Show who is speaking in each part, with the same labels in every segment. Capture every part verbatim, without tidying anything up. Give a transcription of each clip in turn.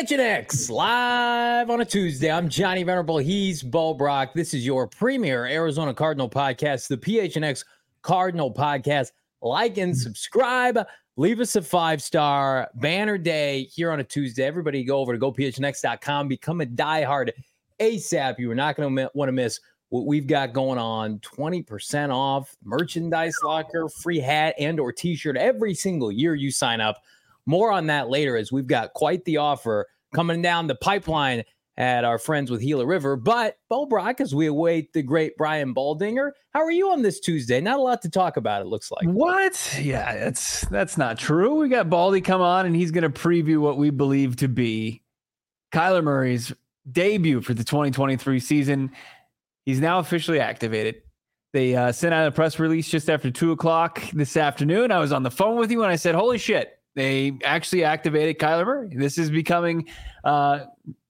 Speaker 1: H N X live on a Tuesday. I'm Johnny Venerable. He's Bo Brock. This is your premier Arizona Cardinal podcast, the P H N X Cardinal Podcast. Like and subscribe. Leave us a five-star banner day here on a Tuesday. Everybody go over to go P H N X dot com. Become a diehard ASAP. You are not going to want to miss what we've got going on. twenty percent off, merchandise locker, free hat and or t-shirt every single year you sign up. More on that later, as we've got quite the offer coming down the pipeline at our friends with Gila River. But Bo Brock, as we await the great Brian Baldinger, how are you on this Tuesday? Not a lot to talk about, it looks like.
Speaker 2: What? Yeah, that's that's not true. We got Baldy come on, and he's going to preview what we believe to be Kyler Murray's debut for the twenty twenty-three season. He's now officially activated. They uh, sent out a press release just after two o'clock this afternoon. I was on the phone with you, and I said, holy shit. They actually activated Kyler Murray. This is becoming uh,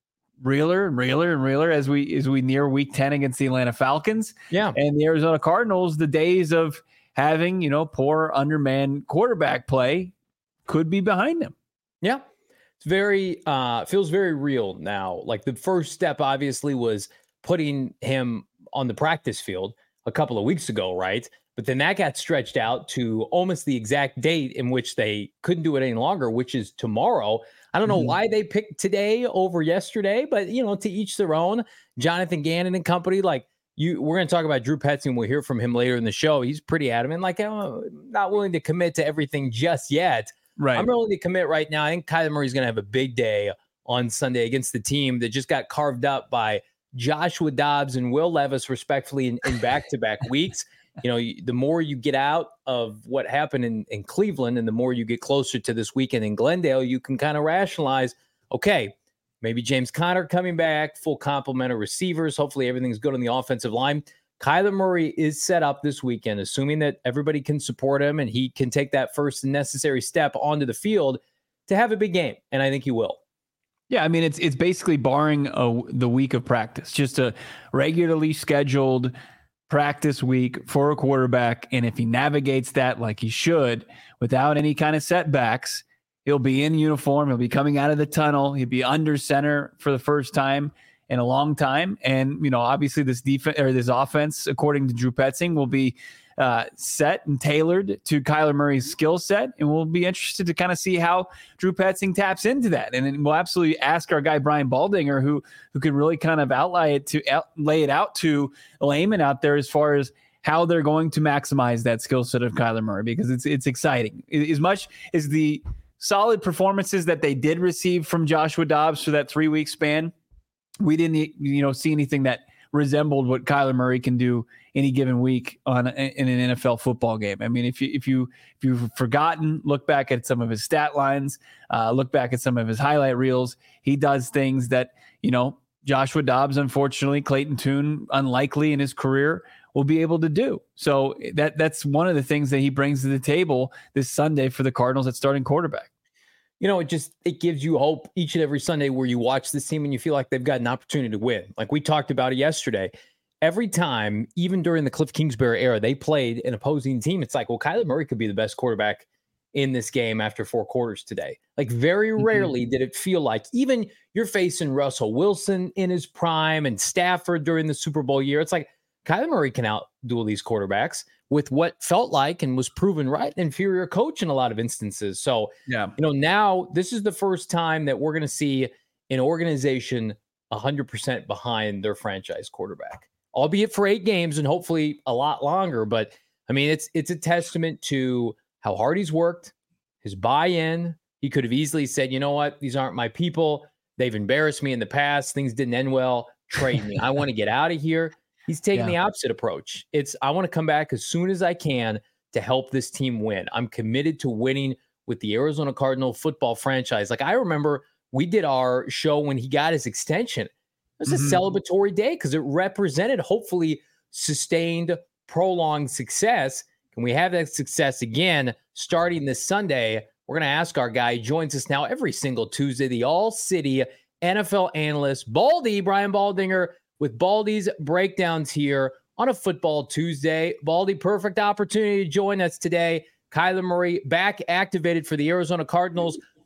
Speaker 2: realer and realer and realer as we as we near week ten against the Atlanta Falcons.
Speaker 1: Yeah.
Speaker 2: And the Arizona Cardinals, the days of having, you know, poor undermanned quarterback play could be behind them.
Speaker 1: Yeah. It's very, uh, feels very real now. Like the first step obviously was putting him on the practice field a couple of weeks ago, right? But then that got stretched out to almost the exact date in which they couldn't do it any longer, which is tomorrow. I don't know mm-hmm. why they picked today over yesterday, but, you know, to each their own. Jonathan Gannon and company, like you, we're going to talk about Drew Petzing, and we'll hear from him later in the show. He's pretty adamant, like, I'm not willing to commit to everything just yet.
Speaker 2: Right.
Speaker 1: I'm willing to commit right now. I think Kyler Murray's going to have a big day on Sunday against the team that just got carved up by Joshua Dobbs and Will Levis, respectfully, in, in back-to-back weeks. You know, the more you get out of what happened in, in Cleveland and the more you get closer to this weekend in Glendale, you can kind of rationalize, okay, maybe James Conner coming back, full complement of receivers. Hopefully everything's good on the offensive line. Kyler Murray is set up this weekend, assuming that everybody can support him and he can take that first necessary step onto the field to have a big game. And I think he will.
Speaker 2: Yeah, I mean, it's it's basically barring a, the week of practice, just a regularly scheduled practice week for a quarterback. And if he navigates that like he should without any kind of setbacks, he'll be in uniform. He'll be coming out of the tunnel. He'll be under center for the first time in a long time. And, you know, obviously this defense or this offense, according to Drew Petzing, will be uh, set and tailored to Kyler Murray's skill set. And we'll be interested to kind of see how Drew Petzing taps into that. And then we'll absolutely ask our guy, Brian Baldinger, who, who can really kind of outlay it to out, lay it out to layman out there as far as how they're going to maximize that skill set of Kyler Murray, because it's, it's exciting. As much as the solid performances that they did receive from Joshua Dobbs for that three week span, we didn't, you know, see anything that resembled what Kyler Murray can do any given week on in an N F L football game. I mean, if you if you if you've forgotten, look back at some of his stat lines, uh, look back at some of his highlight reels. He does things that, you know, Joshua Dobbs, unfortunately, Clayton Tune, unlikely in his career, will be able to do. So that that's one of the things that he brings to the table this Sunday for the Cardinals at starting quarterback.
Speaker 1: You know, it just, it gives you hope each and every Sunday where you watch this team and you feel like they've got an opportunity to win. Like we talked about it yesterday. Every time, even during the Cliff Kingsbury era, they played an opposing team. It's like, well, Kyler Murray could be the best quarterback in this game after four quarters today. Like very rarely mm-hmm. did it feel like, even you're facing Russell Wilson in his prime and Stafford during the Super Bowl year. It's like Kyler Murray can outduel these quarterbacks with what felt like and was proven right, an inferior coach in a lot of instances. So,
Speaker 2: yeah,
Speaker 1: you know, now this is the first time that we're going to see an organization one hundred percent behind their franchise quarterback, albeit for eight games and hopefully a lot longer. But I mean, it's it's a testament to how hard he's worked, his buy-in. He could have easily said, you know what, these aren't my people. They've embarrassed me in the past. Things didn't end well. Trade me. I want to get out of here. He's taking yeah. the opposite approach. It's, I want to come back as soon as I can to help this team win. I'm committed to winning with the Arizona Cardinal football franchise. Like I remember we did our show when he got his extension. It was mm-hmm. a celebratory day because it represented hopefully sustained, prolonged success. Can we have that success again starting this Sunday? We're going to ask our guy. He joins us now every single Tuesday, the All-City N F L analyst, Baldy, Brian Baldinger, with Baldy's breakdowns here on a football Tuesday. Baldy, perfect opportunity to join us today. Kyler Murray back activated for the Arizona Cardinals.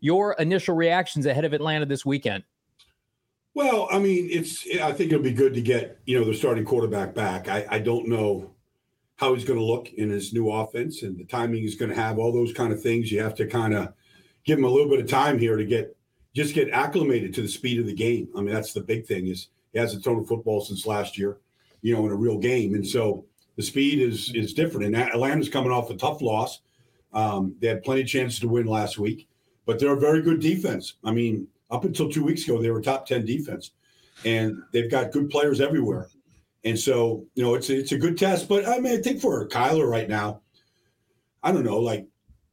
Speaker 1: your initial reactions ahead of Atlanta this weekend?
Speaker 3: Well, I mean, it's. I think it'll be good to get, you know, the starting quarterback back. I, I don't know how he's going to look in his new offense and the timing he's going to have, all those kind of things. You have to kind of give him a little bit of time here to get just get acclimated to the speed of the game. I mean, that's the big thing is he hasn't thrown a football since last year, you know, in a real game. And so the speed is is different. And Atlanta's coming off a tough loss. Um, they had plenty of chances to win last week, but they're a very good defense. I mean, up until two weeks ago, they were top ten defense, and they've got good players everywhere. And so, you know, it's a, it's a good test. But I mean, I think for Kyler right now, I don't know, like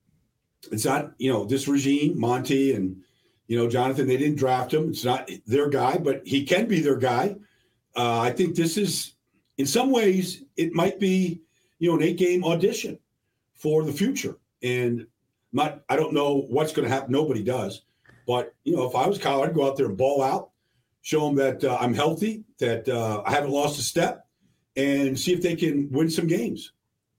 Speaker 3: it's not, you know, this regime, Monty and, you know, Jonathan, they didn't draft him. It's not their guy, but he can be their guy. Uh, I think this is, in some ways, it might be, you know, an eight-game audition for the future. And not, I don't know what's going to happen. Nobody does. But, you know, if I was Kyle, I'd go out there and ball out, show them that uh, I'm healthy, that uh, I haven't lost a step, and see if they can win some games.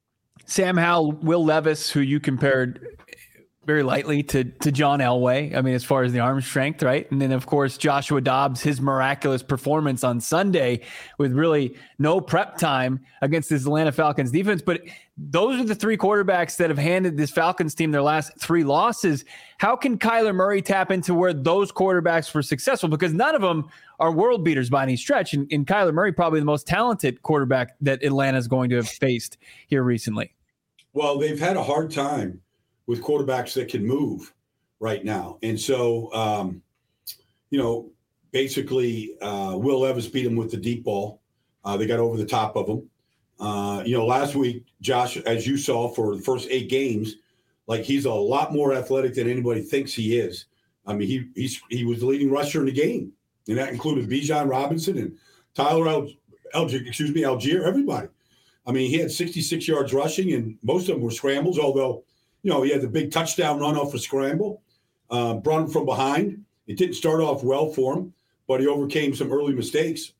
Speaker 2: Sam Howell, Will Levis, who you compared very lightly to to John Elway, I mean, as far as the arm strength, right? And then, of course, Joshua Dobbs, his miraculous performance on Sunday with really no prep time against this Atlanta Falcons defense. But those are the three quarterbacks that have handed this Falcons team their last three losses. How can Kyler Murray tap into where those quarterbacks were successful? Because none of them are world beaters by any stretch. And, and Kyler Murray, probably the most talented quarterback that Atlanta is going to have faced here recently.
Speaker 3: Well, they've had a hard time with quarterbacks that can move right now. And so, um, you know, basically uh, Will Levis beat him with the deep ball. Uh, they got over the top of him. Uh, you know, last week, Josh, as you saw for the first eight games, like he's a lot more athletic than anybody thinks he is. I mean, he he's, he was the leading rusher in the game, and that included Bijan Robinson and Tyler Al- Algier, excuse me, Algier, everybody. I mean, he had sixty-six yards rushing, and most of them were scrambles, although, you know, he had the big touchdown run off a scramble, uh, brought him from behind. It didn't start off well for him, but he overcame some early mistakes.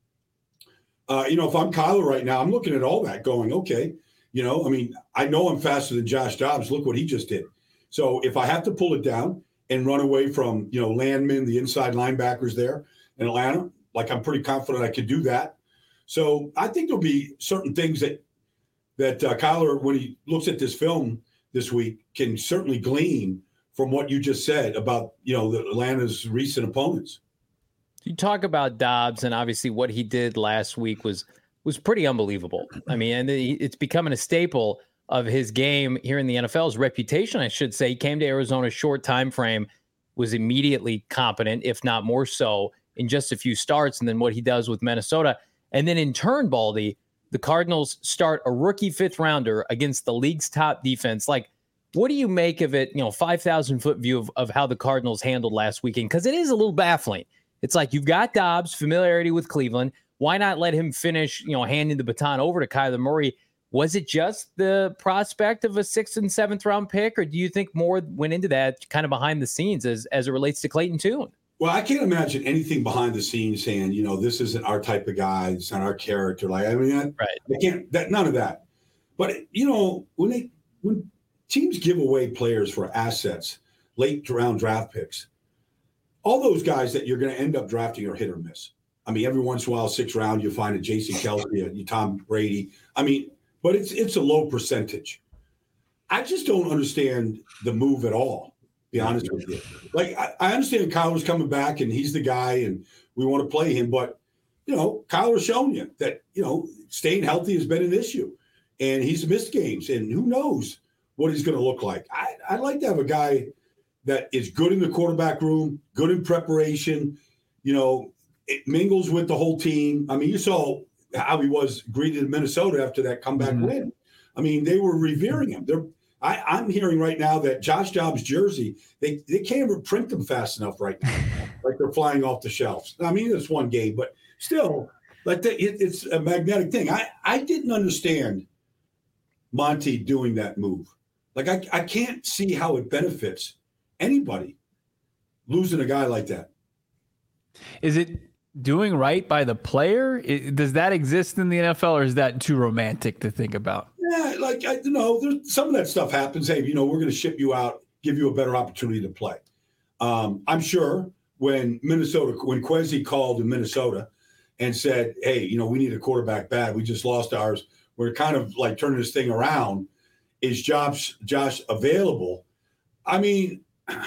Speaker 3: Uh, you know, if I'm Kyler right now, I'm looking at all that going, okay, you know, I mean, I know I'm faster than Josh Dobbs. Look what he just did. So if I have to pull it down and run away from, you know, Landman, the inside linebackers there in Atlanta, like I'm pretty confident I could do that. So I think there'll be certain things that that uh, Kyler, when he looks at this film this week, can certainly glean from what you just said about, you know, the Atlanta's recent opponents.
Speaker 1: You talk about Dobbs, and obviously what he did last week was was pretty unbelievable. I mean, and it's becoming a staple of his game here in the N F L's reputation, I should say. He came to Arizona short time frame, was immediately competent, if not more so, in just a few starts, and then what he does with Minnesota. And then in turn, Baldy, the Cardinals start a rookie fifth rounder against the league's top defense. Like, what do you make of it, you know, five thousand foot view of, of how the Cardinals handled last weekend? Because it is a little baffling. It's like you've got Dobbs, familiarity with Cleveland. Why not let him finish, you know, handing the baton over to Kyler Murray? Was it just the prospect of a sixth and seventh round pick, or do you think more went into that kind of behind the scenes as, as it relates to Clayton Tune?
Speaker 3: Well, I can't imagine anything behind the scenes saying, you know, this isn't our type of guy. It's not our character. Like, I mean, I,
Speaker 1: right.
Speaker 3: I can't, that, none of that. But, you know, when they, when teams give away players for assets, late round draft picks, all those guys that you're going to end up drafting are hit or miss. I mean, every once in a while, sixth round, you find a Jason Kelce, a Tom Brady. I mean, but it's it's a low percentage. I just don't understand the move at all, to be honest with you. Like, I, I understand Kyler's coming back and he's the guy and we want to play him. But, you know, Kyler's shown you that, you know, staying healthy has been an issue. And he's missed games. And who knows what he's going to look like. I, I'd like to have a guy that is good in the quarterback room, good in preparation, you know, it mingles with the whole team. I mean, you saw how he was greeted in Minnesota after that comeback mm-hmm. win. I mean, they were revering him. They're, I, I'm hearing right now that Josh Dobbs' jersey, they, they can't even print them fast enough right now. Like they're flying off the shelves. I mean, it's one game, but still, like the, it, it's a magnetic thing. I, I didn't understand Monty doing that move. Like, I, I can't see how it benefits anybody losing a guy like that.
Speaker 2: Is it doing right by the player? It, does that exist in the N F L, or is that too romantic to think about?
Speaker 3: Yeah, like, I, you know, there's, some of that stuff happens. Hey, you know, we're going to ship you out, give you a better opportunity to play. Um, I'm sure when Minnesota, when Kwesi called in Minnesota and said, hey, you know, we need a quarterback bad. We just lost ours. We're kind of like turning this thing around. Is Josh, Josh available? I mean,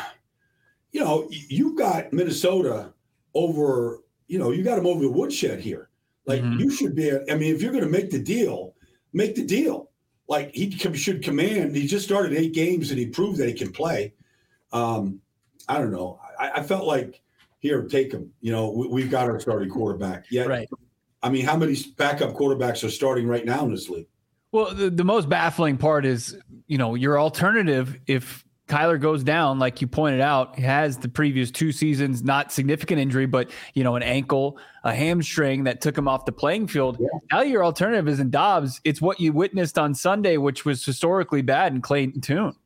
Speaker 3: you know, you've got Minnesota over, you know, you got him over the woodshed here. Like, mm-hmm. you should be, I mean, if you're going to make the deal, make the deal. Like, he should command. He just started eight games and he proved that he can play. Um, I don't know. I, I felt like, here, take him. You know, we, we've got our starting quarterback. Yeah.
Speaker 2: Right.
Speaker 3: I mean, how many backup quarterbacks are starting right now in this league?
Speaker 2: Well, the, the most baffling part is, you know, your alternative, if Kyler goes down, like you pointed out, he has the previous two seasons, not significant injury, but, you know, an ankle, a hamstring that took him off the playing field. Yeah. Now your alternative isn't Dobbs. It's what you witnessed on Sunday, which was historically bad in Clayton Tune.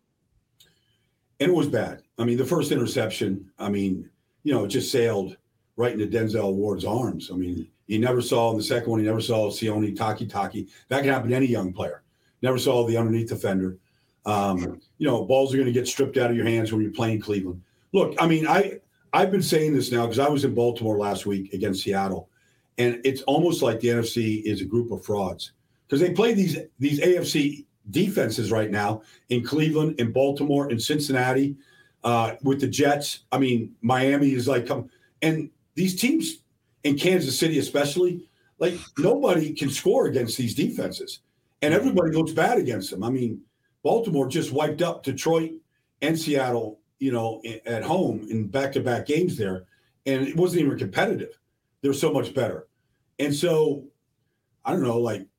Speaker 3: And it was bad. I mean, the first interception, I mean, you know, it just sailed right into Denzel Ward's arms. I mean, you never saw in the second one, you never saw Sione Taki-Taki. That can happen to any young player. Never saw the underneath defender. Um, you know, balls are going to get stripped out of your hands when you're playing Cleveland. Look, I mean, I, I've been saying this now because I was in Baltimore last week against Seattle, and it's almost like the N F C is a group of frauds because they play these these A F C defenses right now in Cleveland, in Baltimore, in Cincinnati, uh, with the Jets. I mean, Miami is like, come, and these teams in Kansas City especially, like nobody can score against these defenses, and everybody looks bad against them. I mean, Baltimore just wiped up Detroit and Seattle, you know, at home in back-to-back games there, and it wasn't even competitive. They're so much better. And so, I don't know, like,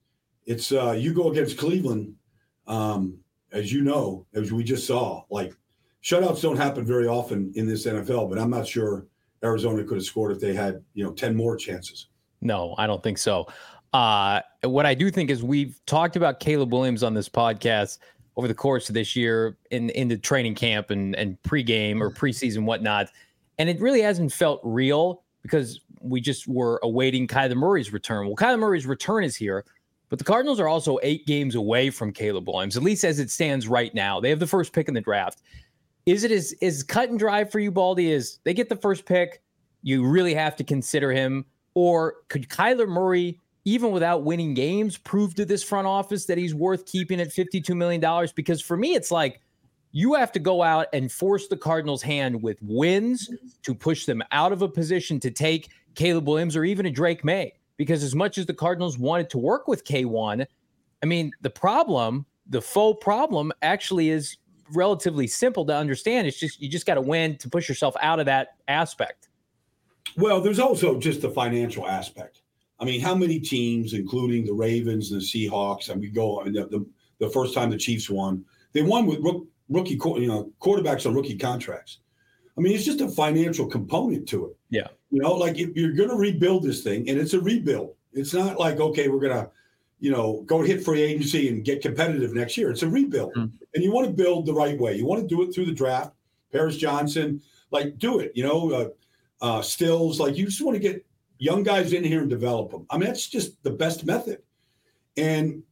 Speaker 3: it's uh, you go against Cleveland, um, as you know, as we just saw, like, shutouts don't happen very often in this N F L, but I'm not sure Arizona could have scored if they had, you know, ten more chances.
Speaker 1: No, I don't think so. Uh, what I do think is we've talked about Caleb Williams on this podcast over the course of this year in, in the training camp and, and pregame or preseason, whatnot. And it really hasn't felt real because we just were awaiting Kyler Murray's return. Well, Kyler Murray's return is here, but the Cardinals are also eight games away from Caleb Williams, at least as it stands right now. They have the first pick in the draft. Is it as, as cut and dry for you, Baldy, as they get the first pick, you really have to consider him? Or could Kyler Murray, even without winning games, prove to this front office that he's worth keeping at fifty-two million dollars? Because for me, it's like you have to go out and force the Cardinals' hand with wins to push them out of a position to take Caleb Williams or even a Drake May. Because as much as the Cardinals wanted to work with K one, I mean, the problem, the faux problem actually is relatively simple to understand. It's just, you just got to win to push yourself out of that aspect.
Speaker 3: Well, there's also just the financial aspect. I mean, how many teams, including the Ravens and the Seahawks, and we go on the, the, the first time the Chiefs won, they won with rook, rookie, you know, quarterbacks on rookie contracts. I mean, it's just a financial component to it.
Speaker 1: Yeah.
Speaker 3: You know, like if you're going to rebuild this thing, and it's a rebuild. It's not like, okay, we're going to, you know, go hit free agency and get competitive next year. It's a rebuild. Mm-hmm. And you want to build the right way. You want to do it through the draft. Paris Johnson, like, do it. You know, uh, uh, Stills, like, you just want to get young guys in here and develop them. I mean, that's just the best method. And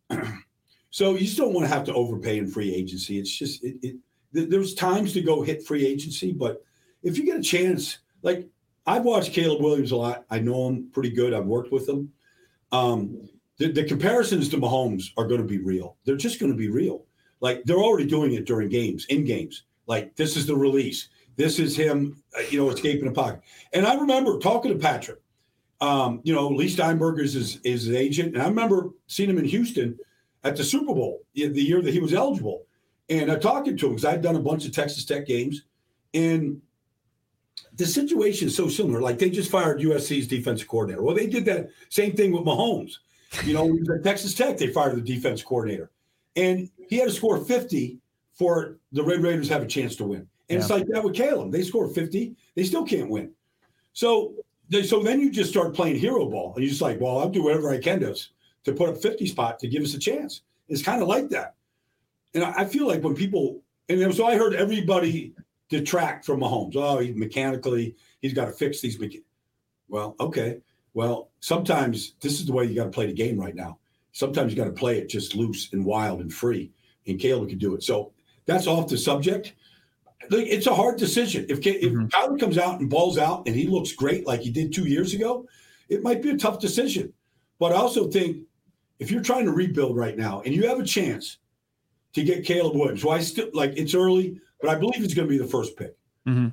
Speaker 3: so you just don't want to have to overpay in free agency. It's just, it, it th- there's times to go hit free agency, but if you get a chance, like, I've watched Caleb Williams a lot. I know him pretty good. I've worked with him. Um, the, the comparisons to Mahomes are going to be real. They're just going to be real. Like, they're already doing it during games, in games. Like, this is the release. This is him, uh, you know, escaping the pocket. And I remember talking to Patrick. Um, you know, Lee Steinberg is his, is his agent. And I remember seeing him in Houston at the Super Bowl the year that he was eligible. And I talking to him because I'd done a bunch of Texas Tech games. And the situation is so similar. Like, they just fired U S C's defensive coordinator. Well, they did that same thing with Mahomes. You know, when he was at Texas Tech, they fired the defense coordinator. And he had to score fifty for the Red Raiders to have a chance to win. And yeah. It's like that with Caleb. They score fifty. They still can't win. So they, so then you just start playing hero ball. And you're just like, well, I'll do whatever I can to, to put up fifty spot to give us a chance. It's kind of like that. And I, I feel like when people – and so I heard everybody detract from Mahomes. Oh, he mechanically, he's got to fix these. Mecha- well, okay. Well, sometimes this is the way you got to play the game right now. Sometimes you got to play it just loose and wild and free. And Caleb can do it. So that's off the subject. Like, it's a hard decision. If if
Speaker 2: Mhm.
Speaker 3: Kyler comes out and balls out and he looks great like he did two years ago, it might be a tough decision. But I also think if you're trying to rebuild right now and you have a chance to get Caleb Williams, who I still like, it's early, but I believe he's going to be the first pick.
Speaker 2: Mhm.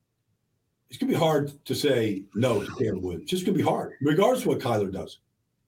Speaker 3: It's going to be hard to say no to Caleb Williams. It's just going to be hard, regardless of what Kyler does.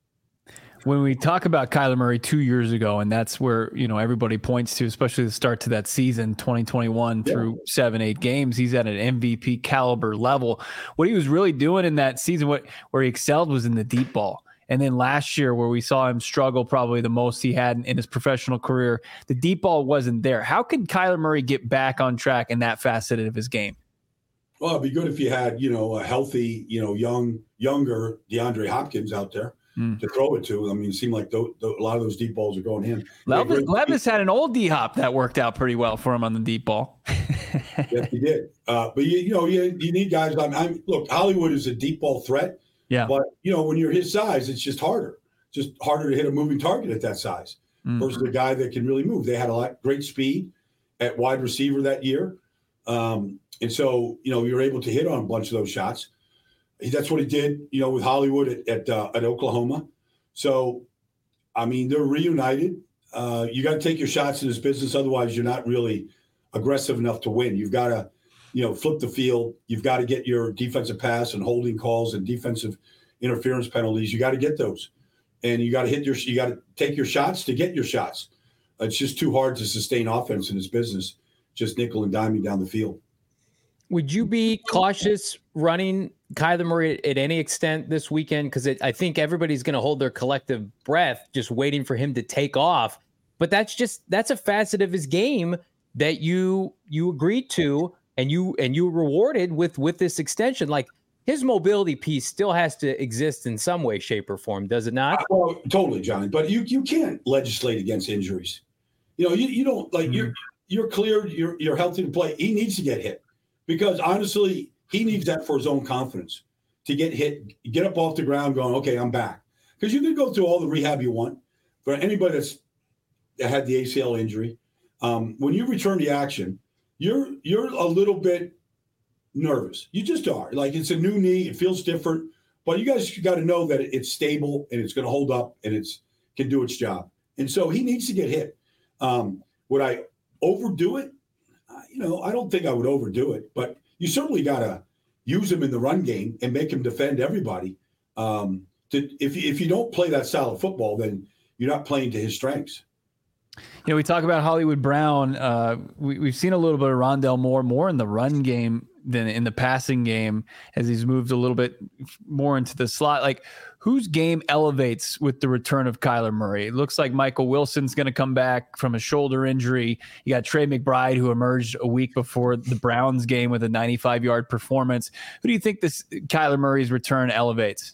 Speaker 2: When we talk about Kyler Murray two years ago, and that's where, you know, everybody points to, especially the start to that season, twenty twenty-one
Speaker 3: Yeah.
Speaker 2: through seven, eight games, he's at an M V P caliber level. What he was really doing in that season, what where he excelled was in the deep ball. And then last year, where we saw him struggle probably the most he had in, in his professional career, the deep ball wasn't there. How can Kyler Murray get back on track in that facet of his game?
Speaker 3: Well, it'd be good if you had, you know, a healthy, you know, young, younger DeAndre Hopkins out there mm. to throw it to. I mean, it seemed like th- th- a lot of those deep balls are going to him.
Speaker 2: Levis, Levis had an old D-Hop that worked out pretty well for him on the deep ball.
Speaker 3: Yes, he did. Uh, but, you, you know, you, you need guys. I'm, I'm, look, Hollywood is a deep ball threat.
Speaker 2: Yeah.
Speaker 3: But, you know, when you're his size, it's just harder. Just harder to hit a moving target at that size mm. versus a guy that can really move. They had a lot great speed at wide receiver that year. Um, and so, you know, you're able to hit on a bunch of those shots. That's what he did, you know, with Hollywood at at, uh, at Oklahoma. So, I mean, they're reunited. Uh, you got to take your shots in this business. Otherwise, you're not really aggressive enough to win. You've got to, you know, flip the field. You've got to get your defensive pass and holding calls and defensive interference penalties. You got to get those. And you got to hit your, you got to take your shots to get your shots. It's just too hard to sustain offense in this business, just nickel and diming down the field.
Speaker 1: Would you be cautious running Kyler Murray at any extent this weekend? Because I think everybody's going to hold their collective breath just waiting for him to take off. But that's just that's a facet of his game that you you agreed to and you and you rewarded with with this extension. Like, his mobility piece still has to exist in some way, shape, or form, does it not?
Speaker 3: Well, totally, Johnny. But you you can't legislate against injuries. You know, you, you don't like mm-hmm. you're you're cleared, you're you're healthy to play. He needs to get hit. Because honestly, he needs that for his own confidence to get hit, get up off the ground going, okay, I'm back. Because you can go through all the rehab you want. For anybody that's that had the A C L injury, um, when you return to action, you're you're a little bit nervous. You just are. Like, it's a new knee. It feels different. But you guys got to know that it's stable and it's going to hold up and it's can do its job. And so he needs to get hit. Um, would I overdo it? You know, I don't think I would overdo it, but you certainly got to use him in the run game and make him defend everybody. Um, to, if, if you don't play that style of football, then you're not playing to his strengths.
Speaker 2: You know, we talk about Hollywood Brown. Uh, we, we've seen a little bit of Rondale Moore, more in the run game than in the passing game as he's moved a little bit more into the slot. Like, whose game elevates with the return of Kyler Murray? It looks like Michael Wilson's going to come back from a shoulder injury. You got Trey McBride, who emerged a week before the Browns game with a ninety-five yard performance. Who do you think this Kyler Murray's return elevates?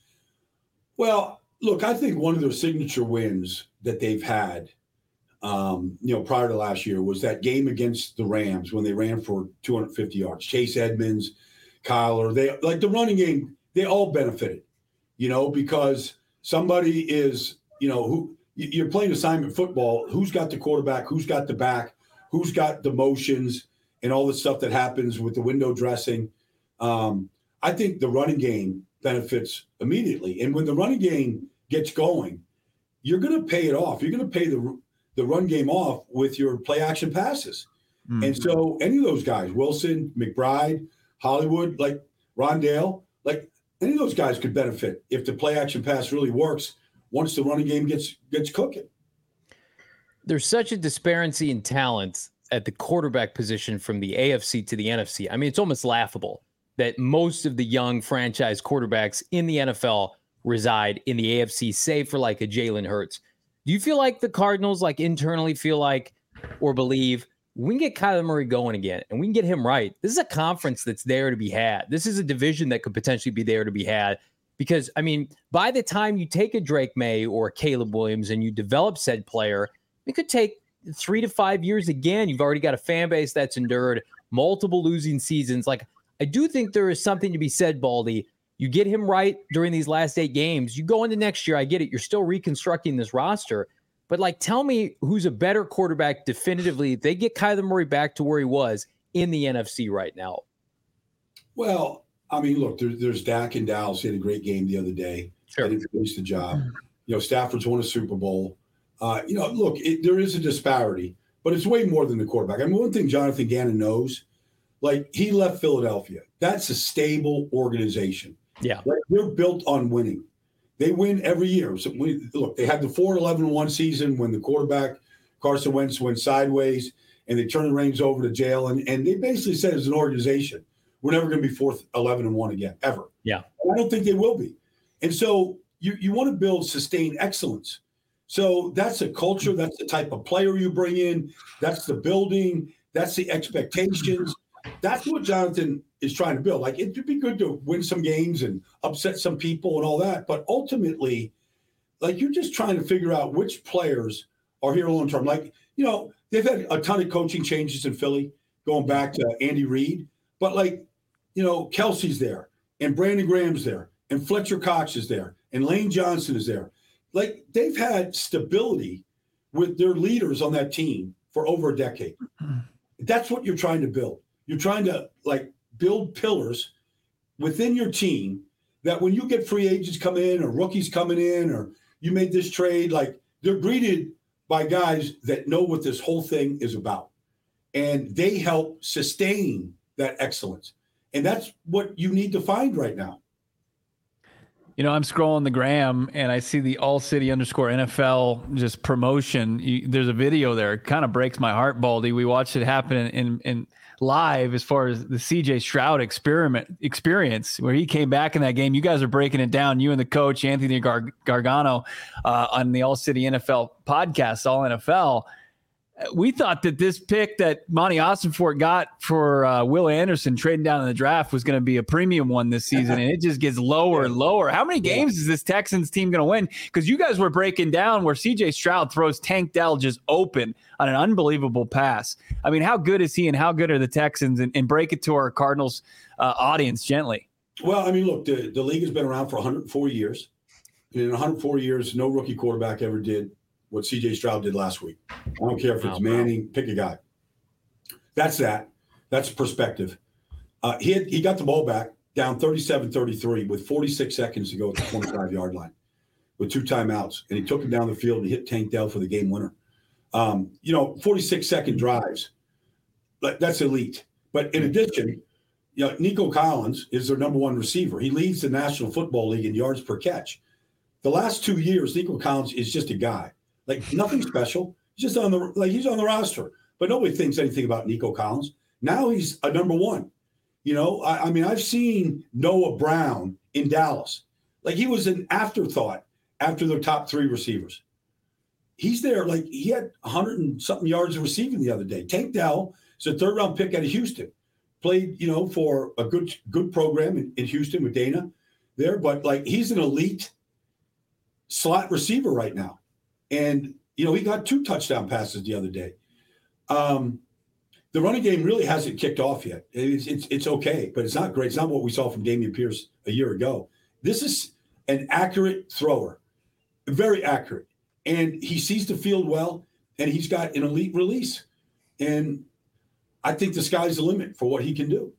Speaker 3: Well, look, I think one of their signature wins that they've had, um, you know, prior to last year was that game against the Rams when they ran for two hundred fifty yards. Chase Edmonds, Kyler, they like the running game, they all benefited. You know, because somebody is, you know, who you're playing assignment football. Who's got the quarterback? Who's got the back? Who's got the motions and all the stuff that happens with the window dressing? Um, I think the running game benefits immediately. And when the running game gets going, you're going to pay it off. You're going to pay the the run game off with your play action passes. Mm-hmm. And so any of those guys, Wilson, McBride, Hollywood, like Rondale, like, any of those guys could benefit if the play action pass really works once the running game gets gets cooking.
Speaker 1: There's such a disparity in talent at the quarterback position from the A F C to the N F C. I mean, it's almost laughable that most of the young franchise quarterbacks in the N F L reside in the A F C, save for like a Jalen Hurts. Do you feel like the Cardinals like internally feel like or believe we can get Kyler Murray going again and we can get him right? This is a conference that's there to be had. This is a division that could potentially be there to be had because, I mean, by the time you take a Drake May or a Caleb Williams and you develop said player, it could take three to five years again. You've already got a fan base that's endured multiple losing seasons. Like, I do think there is something to be said, Baldy. You get him right during these last eight games. You go into next year, I get it. You're still reconstructing this roster. But, like, tell me who's a better quarterback definitively. If they get Kyler Murray back to where he was in the N F C right now?
Speaker 3: Well, I mean, look, there, there's Dak and Dallas. He had a great game the other day.
Speaker 1: Sure.
Speaker 3: They finished the job. You know, Stafford's won a Super Bowl. Uh, you know, look, it, there is a disparity, but it's way more than the quarterback. I mean, one thing Jonathan Gannon knows, like, he left Philadelphia. That's a stable organization.
Speaker 1: Yeah.
Speaker 3: Like, they're built on winning. They win every year. So we, look, they had the four eleven one season when the quarterback, Carson Wentz, went sideways, and they turned the reins over to jail. And, and they basically said, as an organization, we're never going to be fourth eleven and one again, ever.
Speaker 1: Yeah.
Speaker 3: And I don't think they will be. And so you, you want to build sustained excellence. So that's a culture. That's the type of player you bring in. That's the building. That's the expectations. That's what Jonathan is trying to build. Like, it'd be good to win some games and upset some people and all that. But ultimately, like, you're just trying to figure out which players are here long term. Like, you know, they've had a ton of coaching changes in Philly going back to Andy Reid. But, like, you know, Kelsey's there and Brandon Graham's there and Fletcher Cox is there and Lane Johnson is there. Like, they've had stability with their leaders on that team for over a decade. That's what you're trying to build. You're trying to, like, build pillars within your team that when you get free agents come in or rookies coming in or you made this trade, like, they're greeted by guys that know what this whole thing is about. And they help sustain that excellence. And that's what you need to find right now.
Speaker 2: You know, I'm scrolling the gram and I see the All City underscore N F L just promotion. You, there's a video there. It kind of breaks my heart, Baldy. We watched it happen in, in, in live as far as the C J Stroud experiment experience where he came back in that game. You guys are breaking it down. You and the coach, Anthony Gar- Gargano, uh, on the All City N F L podcast, All N F L. We thought that this pick that Monty Ossenfort got for uh, Will Anderson trading down in the draft was going to be a premium one this season, and it just gets lower and lower. How many games is this Texans team going to win? Because you guys were breaking down where C J Stroud throws Tank Dell just open on an unbelievable pass. I mean, how good is he and how good are the Texans? And, and break it to our Cardinals uh, audience gently.
Speaker 3: Well, I mean, look, the, the league has been around for one hundred four years. And in one hundred four years, no rookie quarterback ever did what C J Stroud did last week. I don't care if it's Manning, pick a guy. That's that. That's perspective. Uh, he had, he got the ball back down thirty-seven thirty-three with forty-six seconds to go at the twenty-five-yard line with two timeouts. And he took him down the field and hit Tank Dell for the game winner. Um, you know, forty-six-second drives. That's elite. But in addition, you know, Nico Collins is their number one receiver. He leads the National Football League in yards per catch. The last two years, Nico Collins is just a guy. Like, nothing special. He's just on the like he's on the roster, but nobody thinks anything about Nico Collins. Now he's a number one. You know, I, I mean, I've seen Noah Brown in Dallas. Like, he was an afterthought after their top three receivers. He's there. Like, he had a hundred and something yards of receiving the other day. Tank Dell is a third round pick out of Houston. Played, you know, for a good good program in, in Houston with Dana there, but like, he's an elite slot receiver right now. And, you know, he got two touchdown passes the other day. Um, the running game really hasn't kicked off yet. It's, it's it's okay, but it's not great. It's not what we saw from Dameon Pierce a year ago. This is an accurate thrower, very accurate. And he sees the field well, and he's got an elite release. And I think the sky's the limit for what he can do.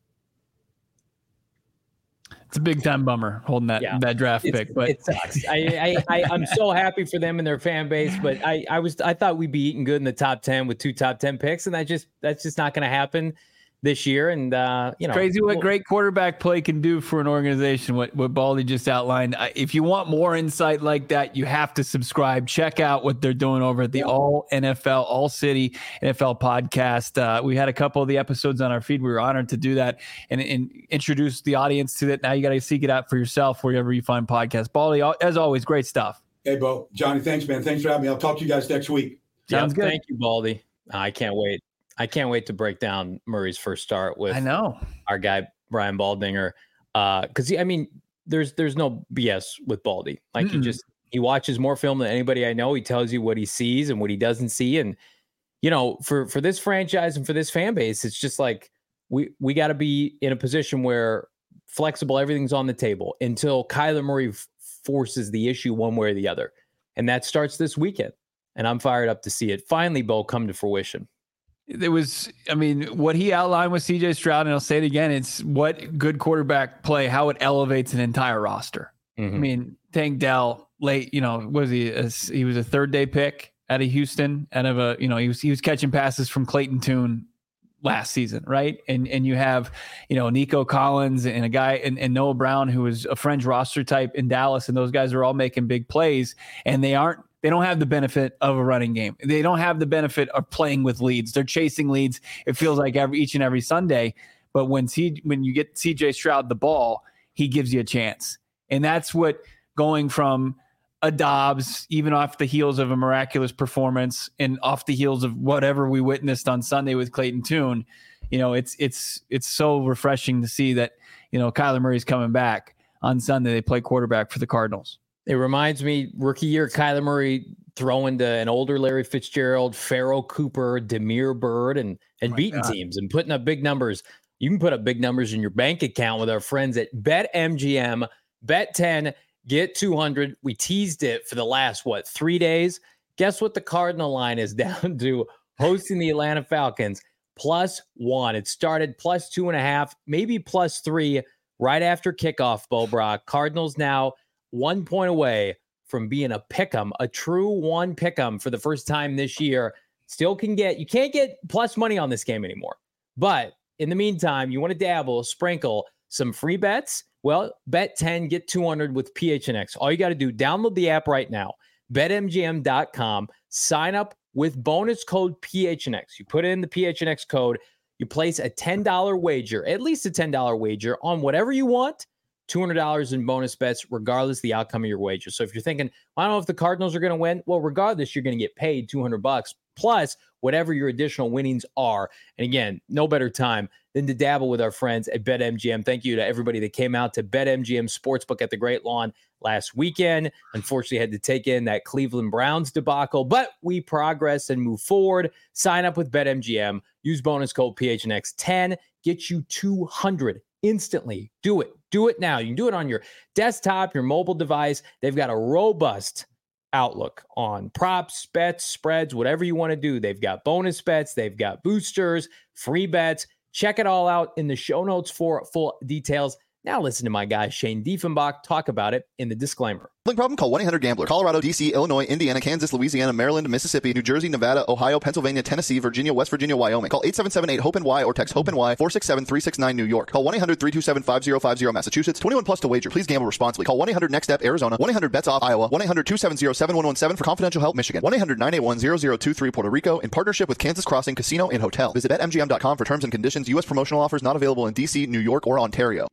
Speaker 2: It's a big time bummer holding that yeah. that draft
Speaker 1: it's,
Speaker 2: pick, but
Speaker 1: it sucks. I, I, I I'm so happy for them and their fan base, but I I was I thought we'd be eating good in the top ten with two top ten picks, and that just that's just not going to happen this year. And uh, you know,
Speaker 2: crazy what great quarterback play can do for an organization. What what Baldy just outlined. If you want more insight like that, you have to subscribe. Check out what they're doing over at the All N F L, All City N F L podcast. Uh, we had a couple of the episodes on our feed. We were honored to do that and, and introduce the audience to it. Now you got to seek it out for yourself wherever you find podcasts. Baldy, as always, great stuff.
Speaker 3: Hey, Bo, Johnny, thanks, man. Thanks for having me. I'll talk to you guys next week.
Speaker 1: Sounds yep, good. Thank you, Baldy. I can't wait. I can't wait to break down Murray's first start with
Speaker 2: I know
Speaker 1: our guy Brian Baldinger. Uh, because I mean, there's there's no B S with Baldy. Like Mm-mm. he just he watches more film than anybody I know. He tells you what he sees and what he doesn't see. And you know, for for this franchise and for this fan base, it's just like we we got to be in a position where flexible, everything's on the table until Kyler Murray f- forces the issue one way or the other, and that starts this weekend. And I'm fired up to see it finally, Bo, come to fruition.
Speaker 2: There was, I mean, what he outlined with C J Stroud, and I'll say it again, it's what good quarterback play, how it elevates an entire roster. Mm-hmm. I mean, Tank Dell late, you know, was he, a, he was a third day pick out of Houston, out of a, you know, he was, he was catching passes from Clayton Tune last season. Right. And, and you have, you know, Nico Collins and a guy and, and Noah Brown, who was a fringe roster type in Dallas. And those guys are all making big plays, and they aren't, they don't have the benefit of a running game. They don't have the benefit of playing with leads. They're chasing leads. It feels like every, each and every Sunday, but when C, when you get C J Stroud the ball, he gives you a chance. And that's what going from a Dobbs, even off the heels of a miraculous performance and off the heels of whatever we witnessed on Sunday with Clayton Tune, you know, it's, it's, it's so refreshing to see that, you know, Kyler Murray's coming back on Sunday. They play quarterback for the Cardinals.
Speaker 1: It reminds me, rookie year, Kyler Murray throwing to an older Larry Fitzgerald, Pharaoh Cooper, Damiere Byrd, and, and oh beating God. teams and putting up big numbers. You can put up big numbers in your bank account with our friends at BetMGM. Bet ten, get two hundred. We teased it for the last, what, three days? Guess what the Cardinal line is down to hosting the Atlanta Falcons? Plus one. It started plus two and a half, maybe plus three right after kickoff, Bo Brock. Cardinals now one point away from being a pick'em, a true one pick'em for the first time this year. Still can get, you can't get plus money on this game anymore. But in the meantime, you want to dabble, sprinkle some free bets. Well, bet ten, get two hundred with P H N X. All you got to do, download the app right now, bet M G M dot com, sign up with bonus code P H N X. You put in the P H N X code, you place a ten dollars wager, at least a ten dollars wager on whatever you want, two hundred dollars in bonus bets, regardless of the outcome of your wager. So if you're thinking, I don't know if the Cardinals are going to win, well, regardless, you're going to get paid two hundred bucks plus whatever your additional winnings are. And again, no better time than to dabble with our friends at BetMGM. Thank you to everybody that came out to BetMGM Sportsbook at the Great Lawn last weekend. Unfortunately, had to take in that Cleveland Browns debacle, but we progress and move forward. Sign up with BetMGM. Use bonus code P H N X ten. Get you two hundred instantly. Do it. Do it now. You can do it on your desktop, your mobile device. They've got a robust outlook on props, bets, spreads, whatever you want to do. They've got bonus bets. They've got boosters, free bets. Check it all out in the show notes for full details. Now listen to my guy Shane Diefenbach talk about it in the disclaimer.
Speaker 4: Problem? Call one eight hundred gambler. Colorado, D C, Illinois, Indiana, Kansas, Louisiana, Maryland, Mississippi, New Jersey, Nevada, Ohio, Pennsylvania, Tennessee, Virginia, West Virginia, Wyoming. Call eight seven seven eight hope N Y or text HOPE-NY four six seven three six nine New York. Call one eight hundred three two seven five zero five zero Massachusetts. twenty-one plus to wager. Please gamble responsibly. Call one eight hundred next step Arizona. one eight hundred bets off Iowa. one eight hundred two seven zero seven one one seven for confidential help Michigan. one eight hundred nine eight one zero zero two three Puerto Rico in partnership with Kansas Crossing Casino and Hotel. Visit bet M G M dot com for terms and conditions. U S promotional offers not available in D C, New York, or Ontario.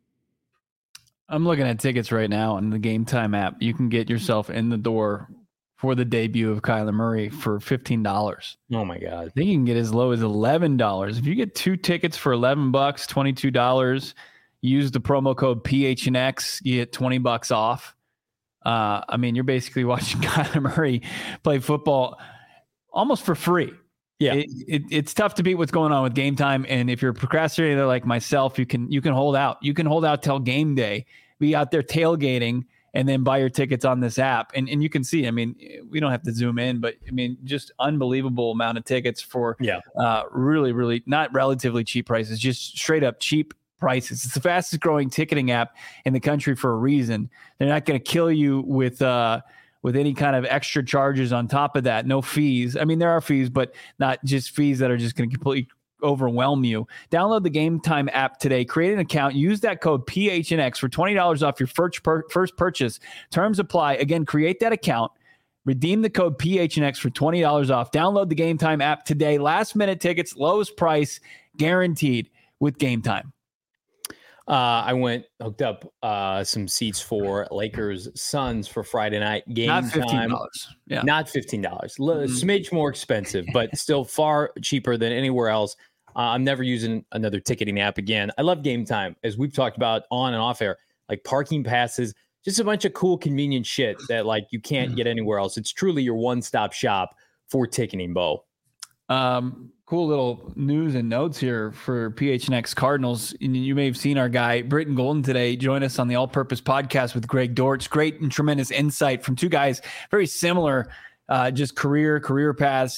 Speaker 2: I'm looking at tickets right now on the Game Time app. You can get yourself in the door for the debut of Kyler Murray for fifteen dollars.
Speaker 1: Oh my God.
Speaker 2: I think you can get as low as eleven dollars. If you get two tickets for eleven bucks, twenty-two dollars, use the promo code P H N X, you get twenty bucks off. Uh, I mean, you're basically watching Kyler Murray play football almost for free.
Speaker 1: Yeah,
Speaker 2: it, it, it's tough to beat what's going on with Game Time. And if you're a procrastinator like myself, you can you can hold out. You can hold out till game day, be out there tailgating, and then buy your tickets on this app. And and you can see, I mean, we don't have to zoom in, but I mean, just unbelievable amount of tickets for
Speaker 1: yeah,
Speaker 2: uh, really, really not relatively cheap prices, just straight up cheap prices. It's the fastest growing ticketing app in the country for a reason. They're not going to kill you with uh, with any kind of extra charges on top of that. No fees. I mean, there are fees, but not just fees that are just going to completely overwhelm you. Download the Game Time app today. Create an account. Use that code P H N X for twenty dollars off your first, per- first purchase. Terms apply. Again, create that account. Redeem the code P H N X for twenty dollars off. Download the Game Time app today. Last minute tickets, lowest price, guaranteed with Game Time.
Speaker 1: Uh, I went hooked up uh, some seats for Lakers Suns for Friday night game
Speaker 2: Not fifteen
Speaker 1: dollars.
Speaker 2: time. Yeah,
Speaker 1: not fifteen dollars. L-
Speaker 2: mm-hmm.
Speaker 1: Smidge more expensive, but still far cheaper than anywhere else. Uh, I'm never using another ticketing app again. I love Game Time, as we've talked about on and off air, like parking passes, just a bunch of cool, convenient shit that like you can't get anywhere else. It's truly your one-stop shop for ticketing, Bo.
Speaker 2: Um, cool little news and notes here for P H N X Cardinals. And you may have seen our guy, Britton Golden, today join us on the All Purpose Podcast with Greg Dortch. Great and tremendous insight from two guys, very similar, uh, just career, career paths.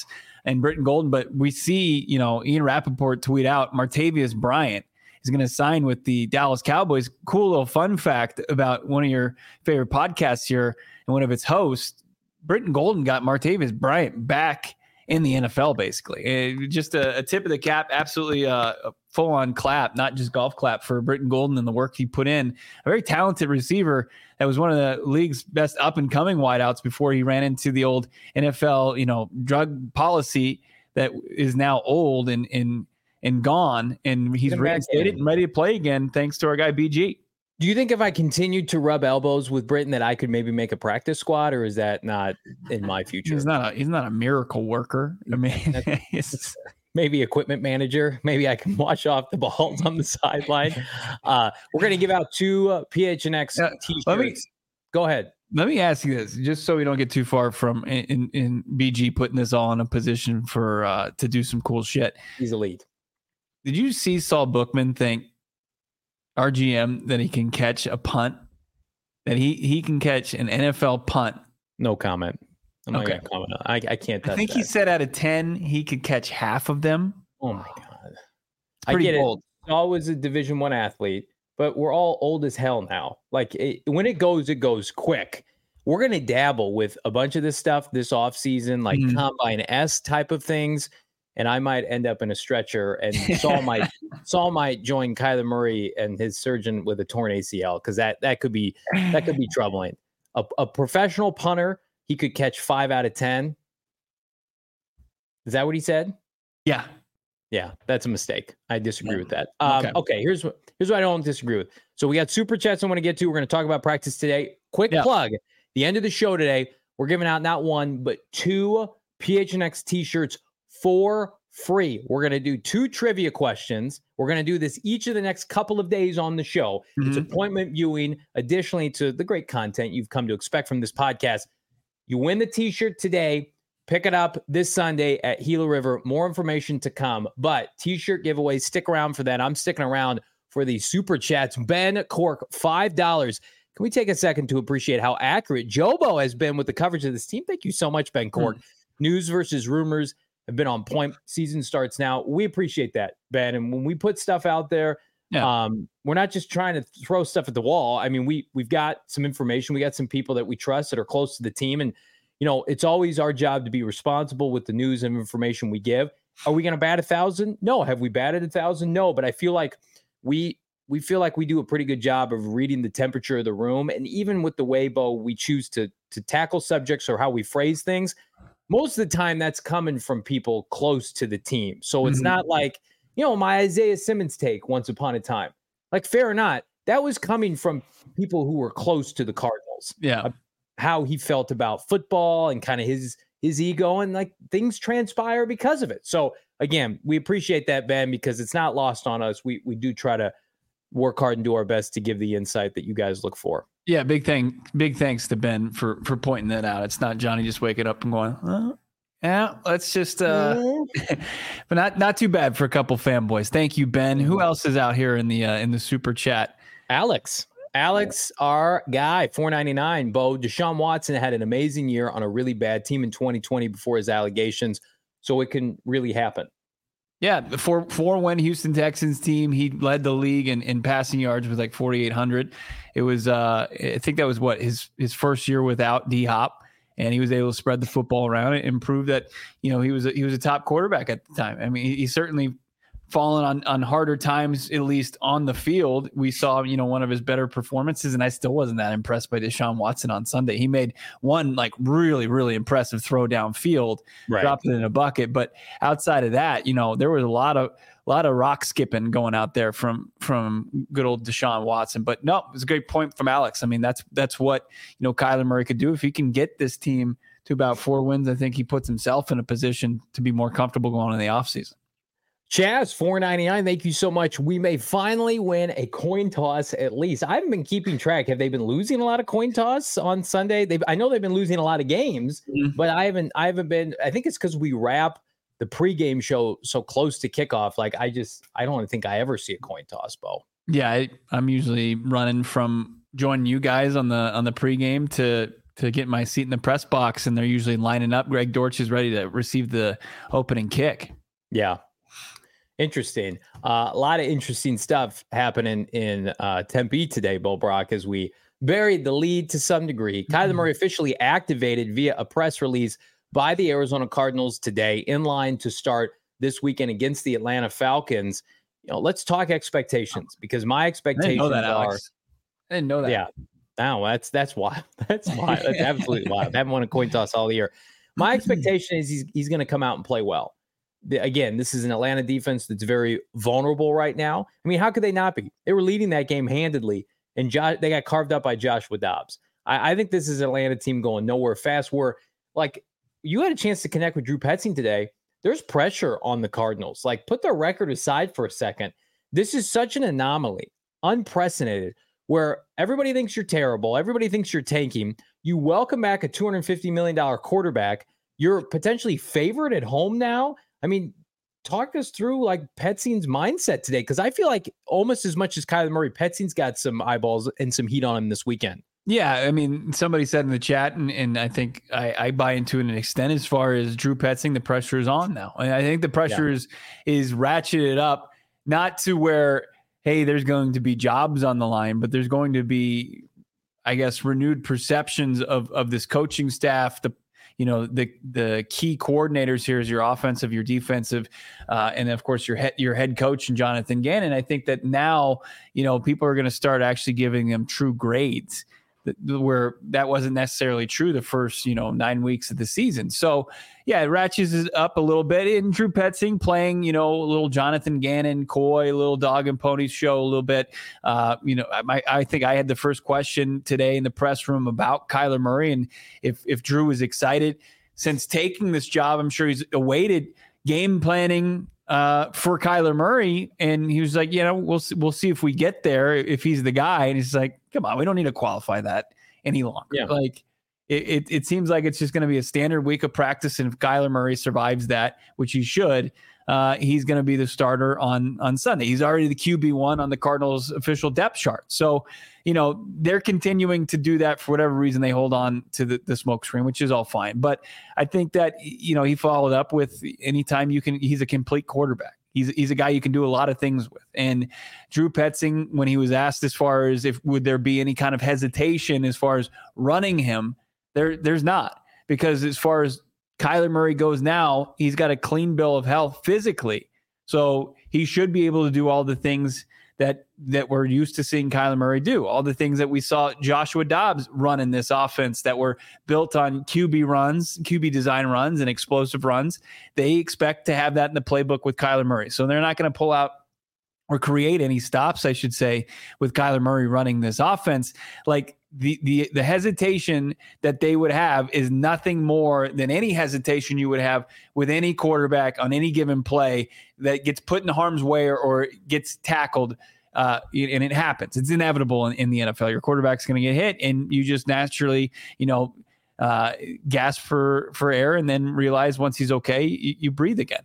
Speaker 2: and Britton Golden. But we see, you know, Ian Rappaport tweet out Martavius Bryant is going to sign with the Dallas Cowboys. Cool little fun fact about one of your favorite podcasts here and one of its hosts. Britton Golden got Martavius Bryant back in the N F L, basically. It, just a, a tip of the cap, absolutely uh, a full-on clap, not just golf clap for Britton Golden and the work he put in. A very talented receiver that was one of the league's best up-and-coming wideouts before he ran into the old N F L, you know, drug policy that is now old and and and gone, and he's reinstated and ready to play again thanks to our guy B G.
Speaker 1: Do you think if I continued to rub elbows with Britton that I could maybe make a practice squad, or is that not in my future?
Speaker 2: He's not a he's not a miracle worker. I mean,
Speaker 1: maybe equipment manager. Maybe I can wash off the balls on the sideline. Uh, we're going to give out two uh, P H N X uh, t-shirts.
Speaker 2: Let me,
Speaker 1: Go ahead.
Speaker 2: Let me ask you this, just so we don't get too far from in, in B G putting this all in a position for uh, to do some cool shit.
Speaker 1: He's elite.
Speaker 2: Did you see Saul Bookman think R G M that he can catch a punt? That he he can catch an N F L punt?
Speaker 1: No comment. I'm
Speaker 2: okay.
Speaker 1: not gonna comment on. I I can't touch
Speaker 2: I think
Speaker 1: that.
Speaker 2: he said out of ten he could catch half of them.
Speaker 1: Oh my god,
Speaker 2: it's pretty
Speaker 1: I get
Speaker 2: bold.
Speaker 1: It. Saul was a Division One athlete, but we're all old as hell now. Like it, when it goes, it goes quick. We're gonna dabble with a bunch of this stuff this off season, like mm-hmm. Combine S type of things. And I might end up in a stretcher, and Saul might Saul might join Kyler Murray and his surgeon with a torn A C L, because that that could be that could be troubling. A, a professional punter, he could catch five out of ten. Is that what he said?
Speaker 2: Yeah,
Speaker 1: yeah, that's a mistake. I disagree yeah. with that. Um, okay. okay, here's what here's what I don't disagree with. So we got super chats I want to get to. We're going to talk about practice today. Quick yeah. plug: the end of the show today, we're giving out not one but two P H N X t-shirts for free. We're going to do two trivia questions. We're going to do this each of the next couple of days on the show. Mm-hmm. It's appointment viewing, additionally to the great content you've come to expect from this podcast. You win the t-shirt today. Pick it up this Sunday at Gila River. More information to come, but t-shirt giveaways, stick around for that. I'm sticking around for the super chats. Ben Cork, five dollars. Can we take a second to appreciate how accurate Jobo has been with the coverage of this team? Thank you so much, Ben Cork. Mm-hmm. News versus rumors have been on point. Season starts now. We appreciate that, Ben. And when we put stuff out there, yeah. um, we're not just trying to throw stuff at the wall. I mean, we, we've got some information. We got some people that we trust that are close to the team. And, you know, it's always our job to be responsible with the news and information we give. Are we going to bat a thousand? No. Have we batted a thousand? No. But I feel like we, we feel like we do a pretty good job of reading the temperature of the room. And even with the way, Bo, we choose to, to tackle subjects or how we phrase things, most of the time that's coming from people close to the team. So it's mm-hmm. not like, you know, my Isaiah Simmons take once upon a time. Like, fair or not, that was coming from people who were close to the Cardinals.
Speaker 2: Yeah.
Speaker 1: How he felt about football and kind of his his ego, and like things transpire because of it. So again, we appreciate that, Ben, because it's not lost on us. We we do try to work hard and do our best to give the insight that you guys look for.
Speaker 2: Yeah, big thing, big thanks to Ben for for pointing that out. It's not Johnny just waking up and going, oh, yeah, let's just uh but not not too bad for a couple fanboys. Thank you, Ben. Who else is out here in the uh, in the super chat?
Speaker 1: Alex. Alex, our guy, four ninety-nine. Bo, Deshaun Watson had an amazing year on a really bad team in twenty twenty before his allegations, so it can really happen.
Speaker 2: Yeah, the four four win Houston Texans team. He led the league in, in passing yards with like forty-eight hundred. It was, uh, I think that was what his his first year without D Hop, and he was able to spread the football around and prove that, you know, he was a, he was a top quarterback at the time. I mean, he, he certainly fallen on on harder times, at least on the field. We saw, you know, one of his better performances, and I still wasn't that impressed by Deshaun Watson on Sunday. He made one like really, really impressive throw downfield, right, dropped it in a bucket. But outside of that, you know, there was a lot of a lot of rock skipping going out there from from good old Deshaun Watson. But no, it was a great point from Alex. I mean, that's that's what, you know, Kyler Murray could do if he can get this team to about four wins. I think he puts himself in a position to be more comfortable going in the offseason.
Speaker 1: Chaz, four ninety-nine, thank you so much. We may finally win a coin toss at least. I haven't been keeping track. Have they been losing a lot of coin toss on Sunday? They, I know they've been losing a lot of games, mm-hmm. but I haven't I haven't been. I think it's because we wrap the pregame show so close to kickoff. Like, I just, I don't think I ever see a coin toss, Bo.
Speaker 2: Yeah, I, I'm usually running from joining you guys on the on the pregame to to get my seat in the press box, and they're usually lining up. Greg Dortch is ready to receive the opening kick.
Speaker 1: Yeah. Interesting. Uh, a lot of interesting stuff happening in uh, Tempe today, Bo Brock, as we buried the lead to some degree. Mm-hmm. Kyler Murray officially activated via a press release by the Arizona Cardinals today, in line to start this weekend against the Atlanta Falcons. You know, let's talk expectations, because my expectations
Speaker 2: I didn't know that,
Speaker 1: are.
Speaker 2: Alex. I didn't know that.
Speaker 1: Yeah. No, that's that's wild. That's wild. That's absolutely wild. I haven't won a coin toss all year. My expectation is he's he's going to come out and play well. The, again, this is an Atlanta defense that's very vulnerable right now. I mean, how could they not be? They were leading that game handedly, and Josh, they got carved up by Joshua Dobbs. I, I think this is an Atlanta team going nowhere fast. Where, like, you had a chance to connect with Drew Petzing today. There's pressure on the Cardinals. Like, put their record aside for a second. This is such an anomaly, unprecedented, where everybody thinks you're terrible. Everybody thinks you're tanking. You welcome back a two hundred fifty million dollars quarterback. You're potentially favored at home now. I mean, talk us through like Petzing's mindset today, because I feel like almost as much as Kyler Murray, Petzing's got some eyeballs and some heat on him this weekend.
Speaker 2: Yeah, I mean, somebody said in the chat, and, and I think I, I buy into it an extent, as far as Drew Petzing, the pressure is on now. And I think the pressure yeah. is, is ratcheted up, not to where, hey, there's going to be jobs on the line, but there's going to be, I guess, renewed perceptions of, of this coaching staff, the you know, the the key coordinators here is your offensive, your defensive, uh, and of course your head your head coach and Jonathan Gannon. I think that now, you know, people are going to start actually giving them true grades, that, where that wasn't necessarily true the first, you know, nine weeks of the season. So yeah, it ratchets it up a little bit. And Drew Petzing playing, you know, a little Jonathan Gannon, coy, a little dog and pony show a little bit. Uh, you know, I, I think I had the first question today in the press room about Kyler Murray, and if if Drew was excited since taking this job. I'm sure he's awaited game planning uh, for Kyler Murray, and he was like, you know, we'll we'll see if we get there, if he's the guy. And he's like, come on, we don't need to qualify that any longer.
Speaker 1: Yeah.
Speaker 2: Like. It, it it seems like it's just going to be a standard week of practice, and if Kyler Murray survives that, which he should, uh, he's going to be the starter on on Sunday. He's already the Q B one on the Cardinals' official depth chart. So, you know, they're continuing to do that for whatever reason. They hold on to the, the smoke screen, which is all fine. But I think that, you know, he followed up with anytime you can. He's a complete quarterback. He's he's a guy you can do a lot of things with. And Drew Petzing, when he was asked as far as if would there be any kind of hesitation as far as running him, There, there's not, because as far as Kyler Murray goes now, he's got a clean bill of health physically. So he should be able to do all the things that that we're used to seeing Kyler Murray do, all the things that we saw Joshua Dobbs run in this offense that were built on Q B runs, Q B design runs, and explosive runs. They expect to have that in the playbook with Kyler Murray. So they're not going to pull out or create any stops, I should say, with Kyler Murray running this offense. Like, The, the the hesitation that they would have is nothing more than any hesitation you would have with any quarterback on any given play that gets put in harm's way or, or gets tackled, uh, and it happens. It's inevitable in, in the N F L. Your quarterback's going to get hit, and you just naturally, you know, uh, gasp for, for air, and then realize once he's okay, you, you breathe again.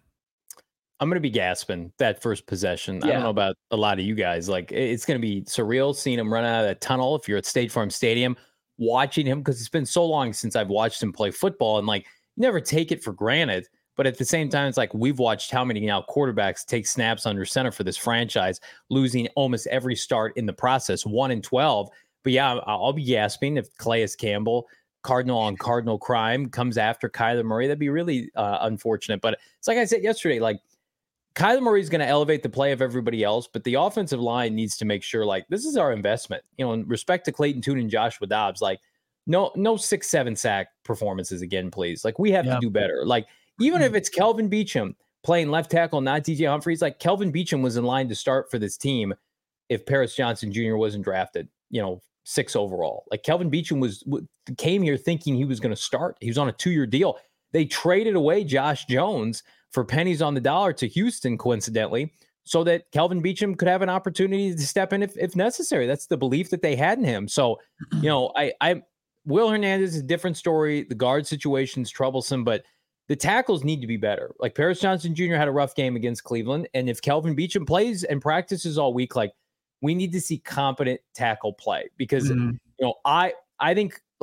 Speaker 1: I'm going to be gasping that first possession.
Speaker 2: Yeah.
Speaker 1: I don't know about a lot of you guys. Like, it's going to be surreal seeing him run out of that tunnel if you're at State Farm Stadium, watching him, because it's been so long since I've watched him play football, and like, you never take it for granted. But at the same time, it's like we've watched how many now quarterbacks take snaps under center for this franchise, losing almost every start in the process, one and twelve. But yeah, I'll be gasping if Calais Campbell, Cardinal on Cardinal crime, comes after Kyler Murray. That'd be really uh, unfortunate. But it's like I said yesterday, like, Kyler Murray is going to elevate the play of everybody else, but the offensive line needs to make sure, like, this is our investment. You know, in respect to Clayton Tune and Joshua Dobbs, like, no, no six, seven sack performances again, please. Like, we have yeah. to do better. Like, even if it's Kelvin Beachum playing left tackle, not D J Humphries, like, Kelvin Beachum was in line to start for this team if Paris Johnson Junior wasn't drafted, you know, six overall. Like, Kelvin Beachum was came here thinking he was going to start. He was on a two-year deal. They traded away Josh Jones for pennies on the dollar to Houston, coincidentally, so that Kelvin Beachum could have an opportunity to step in if, if necessary. That's the belief that they had in him. So, you know, I, I, Will Hernandez is a different story. The guard situation is troublesome, but the tackles need to be better. Like, Paris Johnson Junior had a rough game against Cleveland, and if Kelvin Beachum plays and practices all week, like, we need to see competent tackle play, because, mm-hmm. you know, I, I think, like,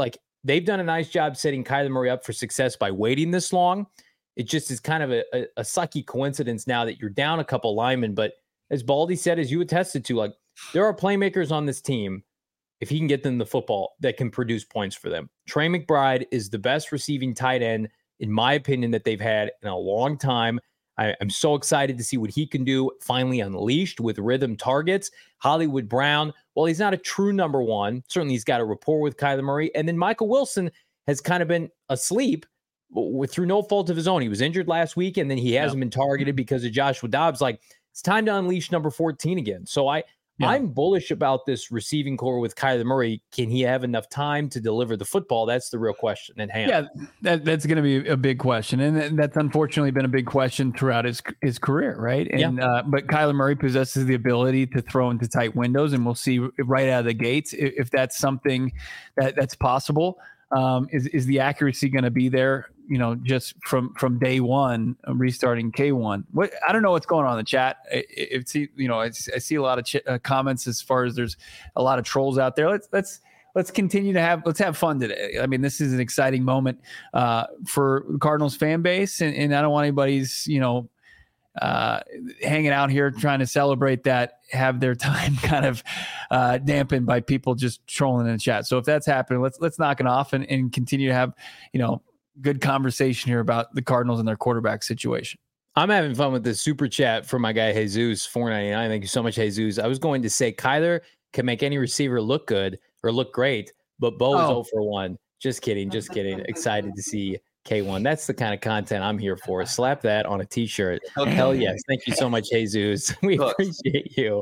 Speaker 1: they've done a nice job setting Kyler Murray up for success by waiting this long. It just is kind of a, a, a sucky coincidence now that you're down a couple linemen. But as Baldy said, as you attested to, like, there are playmakers on this team, if he can get them the football, that can produce points for them. Trey McBride is the best receiving tight end, in my opinion, that they've had in a long time. I, I'm so excited to see what he can do, finally unleashed with rhythm targets. Hollywood Brown, well, he's not a true number one. Certainly he's got a rapport with Kyler Murray. And then Michael Wilson has kind of been asleep with, through no fault of his own. He was injured last week, and then he hasn't yeah. been targeted because of Joshua Dobbs. Like, it's time to unleash number fourteen again. So I, yeah. I'm bullish about this receiving core with Kyler Murray. Can he have enough time to deliver the football? That's the real question at hand.
Speaker 2: Yeah, that, that's going to be a big question. And that's unfortunately been a big question throughout his his career, right? And yeah. uh, But Kyler Murray possesses the ability to throw into tight windows, and we'll see right out of the gates if, if that's something that, that's possible. Um, is, is the accuracy going to be there, you know, just from, from day one, restarting K one? What, I don't know what's going on in the chat. It's, you know, I, I see a lot of ch- uh, comments as far as there's a lot of trolls out there. Let's, let's, let's continue to have, let's have fun today. I mean, this is an exciting moment uh, for the Cardinals fan base. And, and I don't want anybody's, you know, uh, hanging out here trying to celebrate that, have their time kind of uh, dampened by people just trolling in the chat. So if that's happening, let's, let's knock it off and, and continue to have, you know, good conversation here about the Cardinals and their quarterback situation.
Speaker 1: I'm having fun with this super chat from my guy, Jesus four ninety-nine. Thank you so much, Jesus. I was going to say Kyler can make any receiver look good or look great, but Bo is oh. zero for one. Just kidding. Just kidding. Excited to see K one. That's the kind of content I'm here for. Slap that on a t-shirt. Okay. Hell yes. Thank you so much, Jesus. We Look. appreciate you.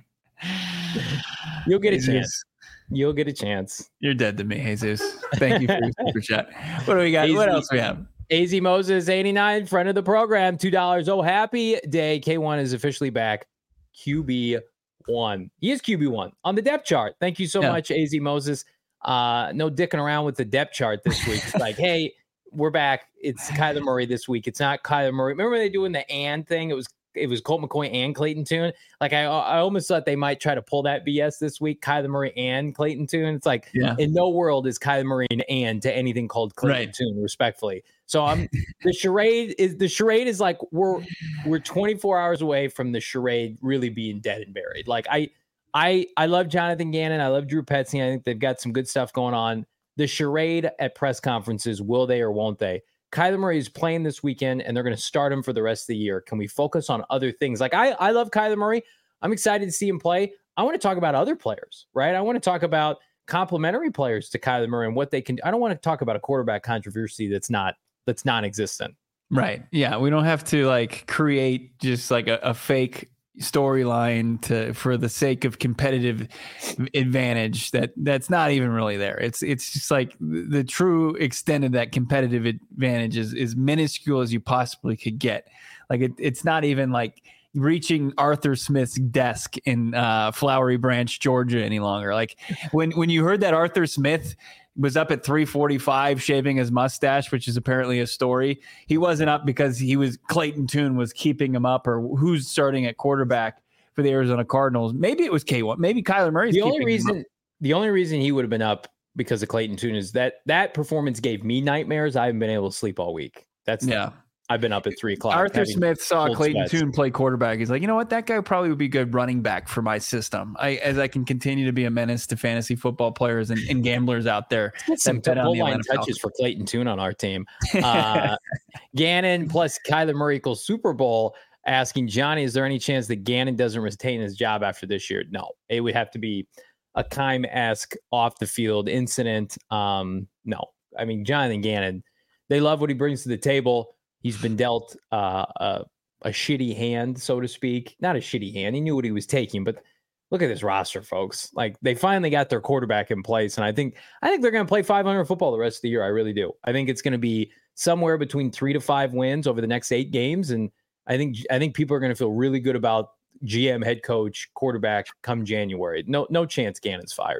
Speaker 1: You'll get Jesus. a chance. You'll get a chance.
Speaker 2: You're dead to me, Jesus. Thank you for your super chat. What do we got? A Z, what else we have?
Speaker 1: A Z Moses eighty-nine, friend of the program, two dollars. Oh, happy day. K one is officially back. Q B one. He is Q B one on the depth chart. Thank you so yeah. much, A Z Moses. Uh, no dicking around with the depth chart this week. It's like, hey, we're back. It's Kyler Murray this week. It's not Kyler Murray. Remember they doing the and thing? It was it was Colt McCoy and Clayton Tune. Like I I almost thought they might try to pull that B S this week. Kyler Murray and Clayton Tune. It's like yeah. in no world is Kyler Murray an and to anything called Clayton right. Tune, respectfully. So I'm the charade is the charade is like we're we're twenty-four hours away from the charade really being dead and buried. Like I I I love Jonathan Gannon. I love Drew Petzing. I think they've got some good stuff going on. The charade at press conferences, will they or won't they? Kyler Murray is playing this weekend, and they're going to start him for the rest of the year. Can we focus on other things? Like, I, I love Kyler Murray. I'm excited to see him play. I want to talk about other players, right? I want to talk about complementary players to Kyler Murray and what they can do. I don't want to talk about a quarterback controversy that's not that's non-existent.
Speaker 2: Right. Yeah. We don't have to, like, create just, like, a, a fake storyline to for the sake of competitive advantage that that's not even really there. It's it's just like the, the true extent of that competitive advantage is is minuscule as you possibly could get. Like it, it's not even like reaching Arthur Smith's desk in uh, Flowery Branch, Georgia any longer. Like when when you heard that Arthur Smith was up at three forty-five shaving his mustache, which is apparently a story. He wasn't up because he was Clayton Tune was keeping him up, or who's starting at quarterback for the Arizona Cardinals. Maybe it was K one. Maybe Kyler Murray's
Speaker 1: the
Speaker 2: keeping
Speaker 1: only reason.
Speaker 2: him up.
Speaker 1: The only reason he would have been up because of Clayton Tune is that that performance gave me nightmares. I haven't been able to sleep all week. That's
Speaker 2: yeah.
Speaker 1: I've been up at three o'clock.
Speaker 2: Arthur Smith saw Clayton Tune play quarterback. He's like, you know what? That guy probably would be good running back for my system. I, as I can continue to be a menace to fantasy football players and, and gamblers out there.
Speaker 1: Some goal line touches for Clayton Tune on our team. Uh, Gannon plus Kyler Murray equals Super Bowl. Asking Johnny, is there any chance that Gannon doesn't retain his job after this year? No, it would have to be a Keim-esque off the field incident. Um, no, I mean Jonathan Gannon. They love what he brings to the table. He's been dealt uh, a, a shitty hand, so to speak. Not a shitty hand. He knew what he was taking, but look at this roster, folks. Like they finally got their quarterback in place, and I think I think they're going to play five hundred football the rest of the year. I really do. I think it's going to be somewhere between three to five wins over the next eight games, and I think I think people are going to feel really good about G M, head coach, quarterback come January. No no chance Gannon's fired.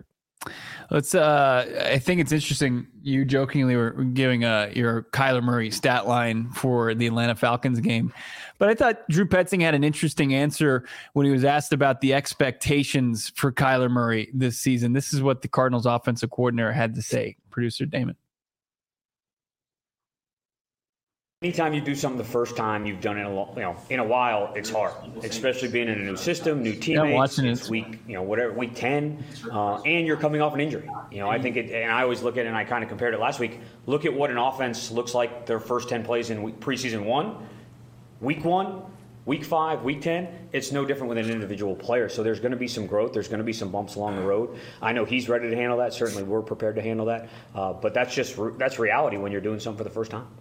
Speaker 2: Let's. Uh, I think it's interesting. You jokingly were giving a your Kyler Murray stat line for the Atlanta Falcons game, but I thought Drew Petzing had an interesting answer when he was asked about the expectations for Kyler Murray this season. This is what the Cardinals offensive coordinator had to say. Producer Damon.
Speaker 5: Anytime you do something the first time you've done it, a lo- you know, in a while, it's hard, especially being in a new system, new teammates.
Speaker 2: Yeah, watching
Speaker 5: it's
Speaker 2: it.
Speaker 5: week, you know, whatever, week ten, uh, and you're coming off an injury. You know, I think it, and I always look at it, and I kind of compared it last week. Look at what an offense looks like their first ten plays in week, preseason one, week one, week five, week ten. It's no different with an individual player. So there's going to be some growth. There's going to be some bumps along the road. I know he's ready to handle that. Certainly, we're prepared to handle that. Uh, but that's just that's reality when you're doing something for the first time.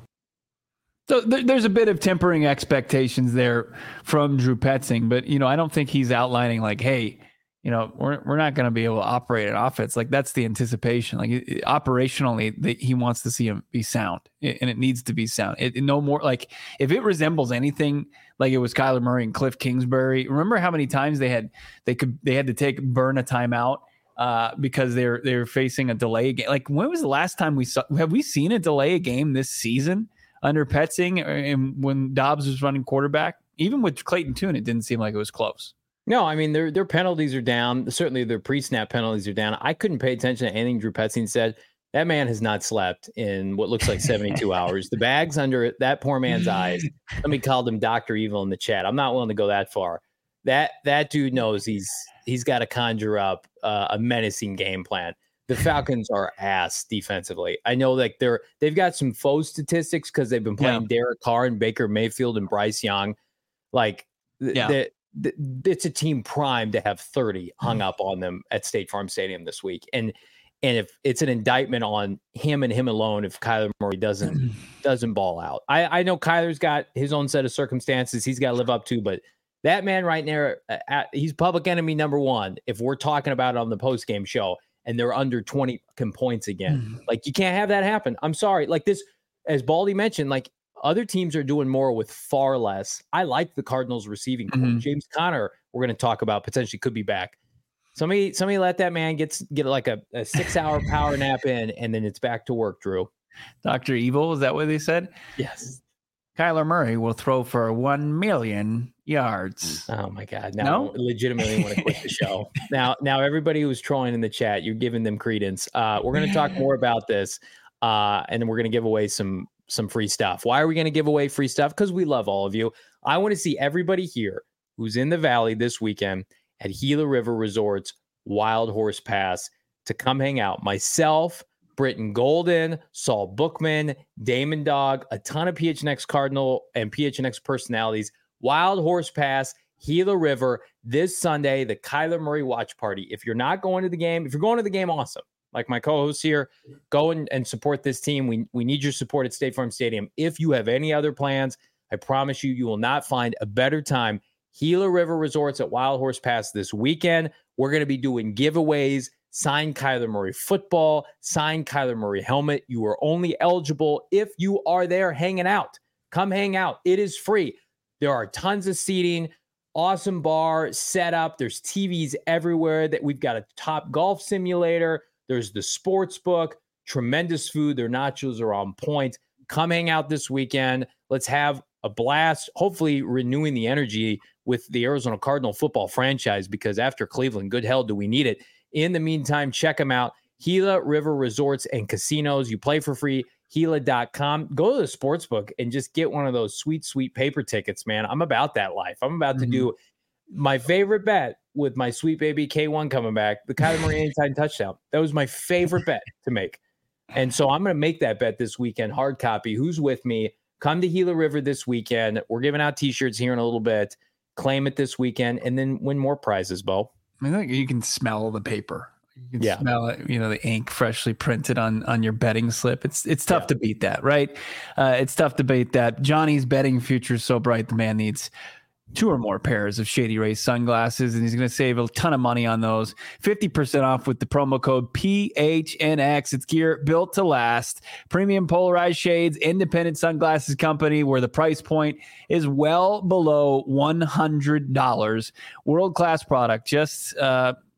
Speaker 2: So th- there's a bit of tempering expectations there from Drew Petzing, but you know, I don't think he's outlining like, hey, you know, we're we're not going to be able to operate an offense. Like that's the anticipation. Like it, it, operationally, the, he wants to see him be sound, it, and it needs to be sound. It, it no more like if it resembles anything like it was Kyler Murray and Cliff Kingsbury. Remember how many times they had they could they had to take burn a timeout uh, because they're they're facing a delay game. Like when was the last time we saw? Have we seen a delay a game this season under Petzing, and when Dobbs was running quarterback? Even with Clayton Tune, it didn't seem like it was close.
Speaker 1: No, I mean, their their penalties are down. Certainly their pre-snap penalties are down. I couldn't pay attention to anything Drew Petzing said. That man has not slept in what looks like seventy-two hours. The bag's under that poor man's eyes. Somebody called him Doctor Evil in the chat. I'm not willing to go that far. That that dude knows he's he's got to conjure up uh, a menacing game plan. The Falcons are ass defensively. I know like they're they've got some faux statistics because they've been playing yeah. Derek Carr and Baker Mayfield and Bryce Young. Like th-
Speaker 2: yeah.
Speaker 1: th- th- it's a team primed to have thirty hung up on them at State Farm Stadium this week. And and if it's an indictment on him and him alone, if Kyler Murray doesn't doesn't ball out. I, I know Kyler's got his own set of circumstances he's got to live up to, but that man right there, uh, he's public enemy number one. If we're talking about it on the postgame show. And they're under twenty points again. Mm. Like, you can't have that happen. I'm sorry. Like this, as Baldy mentioned, like other teams are doing more with far less. I like the Cardinals receiving core. Mm-hmm. James Conner, we're going to talk about, potentially could be back. Somebody, somebody let that man get, get like a, a six hour power nap in, and then it's back to work, Drew.
Speaker 2: Doctor Evil, is that what they said?
Speaker 1: Yes.
Speaker 2: Kyler Murray will throw for one million yards.
Speaker 1: Oh my God! Now, no? I legitimately want to quit the show. Now, now everybody who's trolling in the chat, you're giving them credence. Uh, we're going to talk more about this, uh, and then we're going to give away some some free stuff. Why are we going to give away free stuff? Because we love all of you. I want to see everybody here who's in the Valley this weekend at Gila River Resorts Wild Horse Pass to come hang out. Myself, Britton Golden, Saul Bookman, Damon Dog, a ton of P H N X Cardinal and P H N X personalities. Wild Horse Pass, Gila River, this Sunday, the Kyler Murray watch party. If you're not going to the game, if you're going to the game, awesome. Like my co-host here, go and, and support this team. We, we need your support at State Farm Stadium. If you have any other plans, I promise you, you will not find a better time. Gila River Resorts at Wild Horse Pass this weekend. We're going to be doing giveaways, signed Kyler Murray football, signed Kyler Murray helmet. You are only eligible if you are there hanging out. Come hang out. It is free. There are tons of seating, awesome bar set up. There's T Vs everywhere. That we've got a top golf simulator. There's the sports book, tremendous food. Their nachos are on point. Come hang out this weekend. Let's have a blast, hopefully renewing the energy with the Arizona Cardinal football franchise, because after Cleveland, good hell do we need it. In the meantime, check them out. Gila River Resorts and Casinos. You play for free. Gila dot com. Go to the sports book and just get one of those sweet, sweet paper tickets, man. I'm about that life. I'm about mm-hmm. to do my favorite bet with my sweet baby K one coming back, the Kyler Murray anytime touchdown. That was my favorite bet to make. And so I'm going to make that bet this weekend. Hard copy. Who's with me? Come to Gila River this weekend. We're giving out T-shirts here in a little bit. Claim it this weekend and then win more prizes, Bo.
Speaker 2: I think you can smell the paper. You can
Speaker 1: yeah.
Speaker 2: smell it, you know, the ink freshly printed on, on your betting slip. It's it's tough yeah. to beat that, right? Uh, it's tough to beat that. Johnny's betting future is so bright, the man needs two or more pairs of Shady Rays sunglasses, and he's going to save a ton of money on those. fifty percent off with the promo code P H N X. It's gear built to last. Premium polarized shades, independent sunglasses company where the price point is well below one hundred dollars. World-class product. Just uh,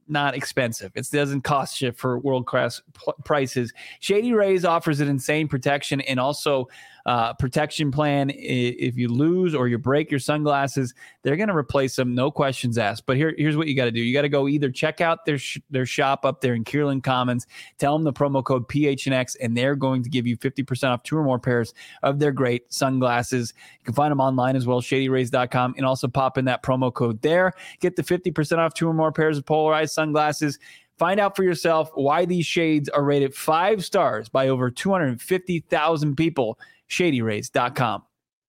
Speaker 2: not expensive. It doesn't cost you for world-class p- prices. Shady Rays offers an insane protection and also uh, protection plan. If you lose or you break your sunglasses, they're going to replace them, no questions asked. But here, here's what you got to do. You got to go either check out their sh- their shop up there in Kierland Commons, tell them the promo code P H N X, and they're going to give you fifty percent off two or more pairs of their great sunglasses. You can find them online as well, shady rays dot com, and also pop in that promo code there. Get the fifty percent off two or more pairs of polarized sunglasses. Find out for yourself why these shades are rated five stars by over two hundred fifty thousand people. shady rays dot com.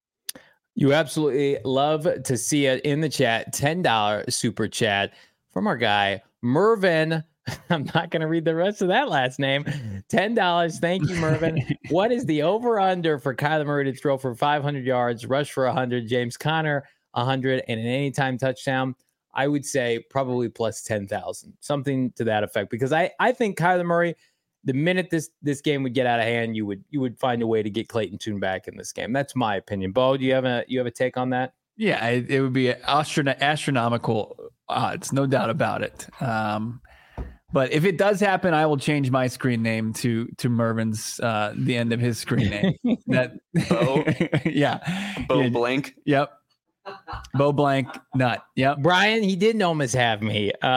Speaker 1: You absolutely love to see it in the chat. ten dollars super chat from our guy, Mervin. I'm not going to read the rest of that last name. ten dollars. Thank you, Mervin. What is the over-under for Kyler Murray to throw for five hundred yards, rush for one hundred, James Conner one hundred, and an anytime touchdown? I would say probably plus ten thousand, something to that effect, because I, I think Kyler Murray, the minute this this game would get out of hand, you would you would find a way to get Clayton Tune back in this game. That's my opinion. Bo, do you have a you have a take on that?
Speaker 2: Yeah, it, it would be astron- astronomical odds, no doubt about it. Um, but if it does happen, I will change my screen name to to Mervin's uh, the end of his screen name. that
Speaker 6: Bo,
Speaker 2: yeah,
Speaker 6: Bo
Speaker 2: yeah.
Speaker 6: Blank.
Speaker 2: Yep. Bo Blank Nut. Yep.
Speaker 1: Brian, he didn't almost have me. Uh,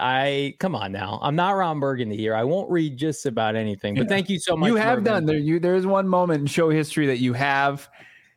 Speaker 1: I come on now. I'm not Ron Burgundy here. I won't read just about anything. But
Speaker 2: Yeah.
Speaker 1: thank you so much.
Speaker 2: You have
Speaker 1: Mervin.
Speaker 2: done there. You there is one moment in show history that you have.